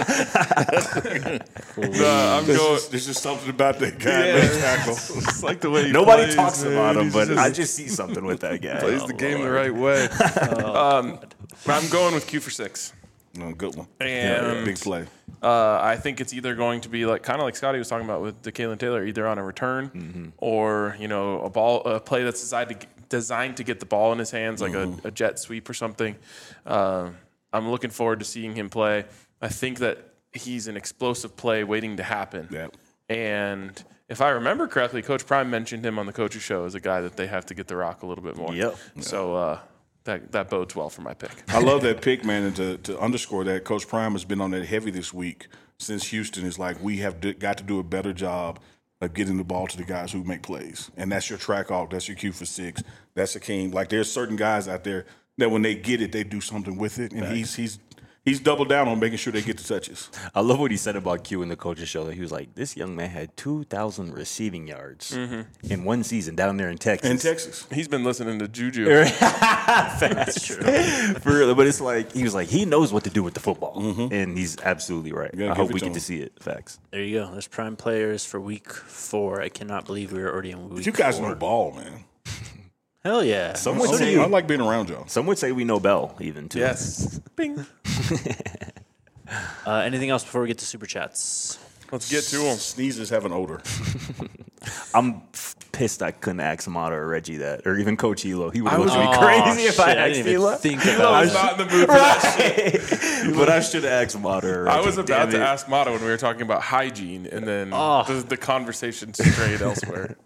D: Uh, I'm
B: There's
D: going.
B: just, there's just something about that guy.
D: Yeah.
B: Left tackle.
D: It's like the way he
C: Nobody
D: plays,
C: talks
D: man.
C: about him,
D: He's
C: but
D: just-
C: I just see something with that guy.
D: plays the game the right way. um, I'm going with Q for six.
B: No, good one.
D: And
B: Big play.
D: Uh, I think it's either going to be like kind of like Scotty was talking about with DeKalen Taylor, either on a return
C: Mm-hmm.
D: or you know a ball, a play that's designed to get, designed to get the ball in his hands, like
C: Mm-hmm.
D: a, a jet sweep or something. Uh, I'm looking forward to seeing him play. I think that he's an explosive play waiting to happen.
B: Yeah.
D: And if I remember correctly, Coach Prime mentioned him on the coach's show as a guy that they have to get the rock a little bit more.
C: Yep.
D: So uh, that that bodes well for my pick.
B: I love that pick, man. And to, to underscore that, Coach Prime has been on that heavy this week since Houston is like, we have d- got to do a better job of getting the ball to the guys who make plays. And that's your track off. That's your Q for six. That's a king. Like, there's certain guys out there that when they get it, they do something with it. And he's he's he's doubled down on making sure they get the touches.
C: I love what he said about Q in the coach's show. That he was like, "This young man had two thousand receiving yards in one season down there in Texas."
B: In Texas.
D: He's been listening to Juju.
C: That's true. For real, but it's like he was like he knows what to do with the football, and he's absolutely right.
B: gotta
C: I
B: give
C: hope
B: it
C: we
B: to
C: get
B: him.
C: to see it. Facts.
A: There you go. There's prime players for week four. I cannot believe we were already in week
B: You guys
A: four.
B: know ball, man.
A: Hell yeah.
C: Some would
B: I,
C: say
B: I like being around y'all.
C: some would say we know Bell even too.
D: Yes. Bing.
A: Uh, anything else before we get to super chats?
D: Let's get to him.
B: Sneezes have an odor.
C: I'm f- pissed I couldn't ask Mata or Reggie that, or even Coach Elo. He would
D: I
C: look
D: was-
C: at me
A: Oh,
C: crazy if I
A: shit, I
C: asked
A: didn't even
C: Elo.
A: think
D: I
A: about
D: was
A: it.
D: not in the mood for that shit.
C: But I should have asked Mata or Reggie.
D: I was about
C: Damn
D: to
C: it.
D: ask Mata when we were talking about hygiene, and then
A: Oh.
D: the, the conversation strayed elsewhere.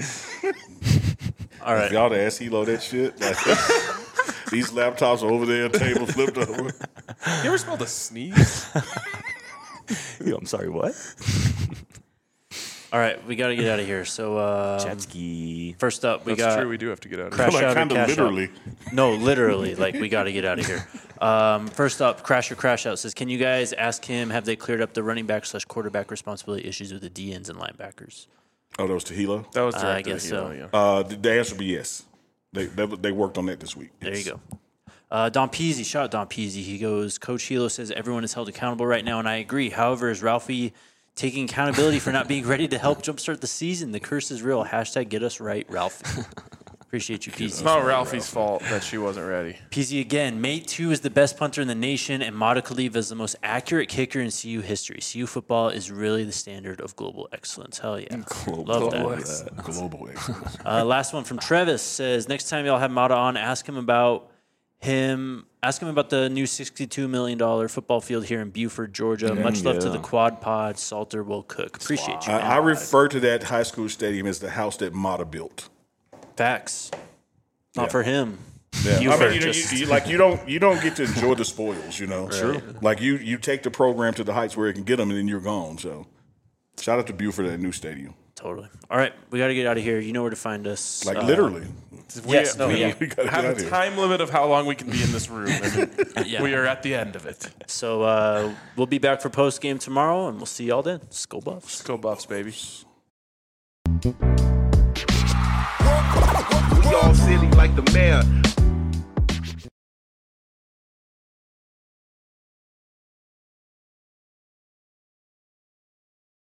A: All right.
B: Y'all to ask Hilo that shit. Like, these laptops are over there, table flipped over.
D: You ever smelled a sneeze?
C: Yo, I'm sorry, what?
A: All right, we got to get out of here. So, um,
C: Jet ski.
A: first up, we
D: That's
A: got
D: true. We do have to get out of
A: Crash
D: here.
B: Like
A: Out or
B: kind of
A: Cash
B: literally.
A: Out. No, literally. Like, we got to get out of here. Um, first up, Crash or Crash Out says, can you guys ask him, have they cleared up the running back slash quarterback responsibility issues with the D Ns and linebackers?
B: Oh, that was Tehilo?
D: That was
A: Uh, I
D: directed
A: guess
D: at
A: so.
D: Hilo, yeah.
B: Uh, the, the answer would be yes. They, they they worked on that this week.
A: There you
B: Yes.
A: go. Uh, Don Peasy, shout out Don Peasy. He goes, Coach Hilo says everyone is held accountable right now, and I agree. However, is Ralphie taking accountability for not being ready to help jumpstart the season? The curse is real. Hashtag get us right, Ralphie. Appreciate you, Peasy.
D: It's not Ralphie's fault that she wasn't ready.
A: Peasy again. Mate two is the best punter in the nation, and Mata Khalifa is the most accurate kicker in C U history. C U football is really the standard of global excellence. Hell yeah. Love that.
B: Global excellence.
A: Uh, last one from Travis says, next time y'all have Mata on, ask him about him. Ask him about the new sixty-two million dollars football field here in Buford, Georgia. Much love to
C: yeah.
A: the quad pod. Salter will cook. Appreciate you,
B: I,
A: man.
B: I refer to that high school stadium as the house that Mata built.
A: Facts. Not
B: Yeah.
A: for him.
B: Yeah,
A: You
B: I
A: were
B: mean, you, know,
A: just-
B: you, you like you don't you don't get to enjoy the spoils, you know. Sure. Like you you take the program to the heights where it can get them, and then you're gone. So, shout out to Buford at that new stadium.
A: Totally. All right, we got to get out of here. You know where to find us.
B: Like
A: Uh,
B: literally.
D: We,
A: Yes, no,
D: we
A: yeah.
B: We gotta get
D: have
B: out
D: a
B: of here.
D: time limit of how long we can be in this room, and
A: Yeah.
D: we are at the end of it.
A: So uh, we'll be back for post game tomorrow, and we'll see y'all then. Skull Buffs.
D: Go Buffs, baby.
H: We all silly like the mayor.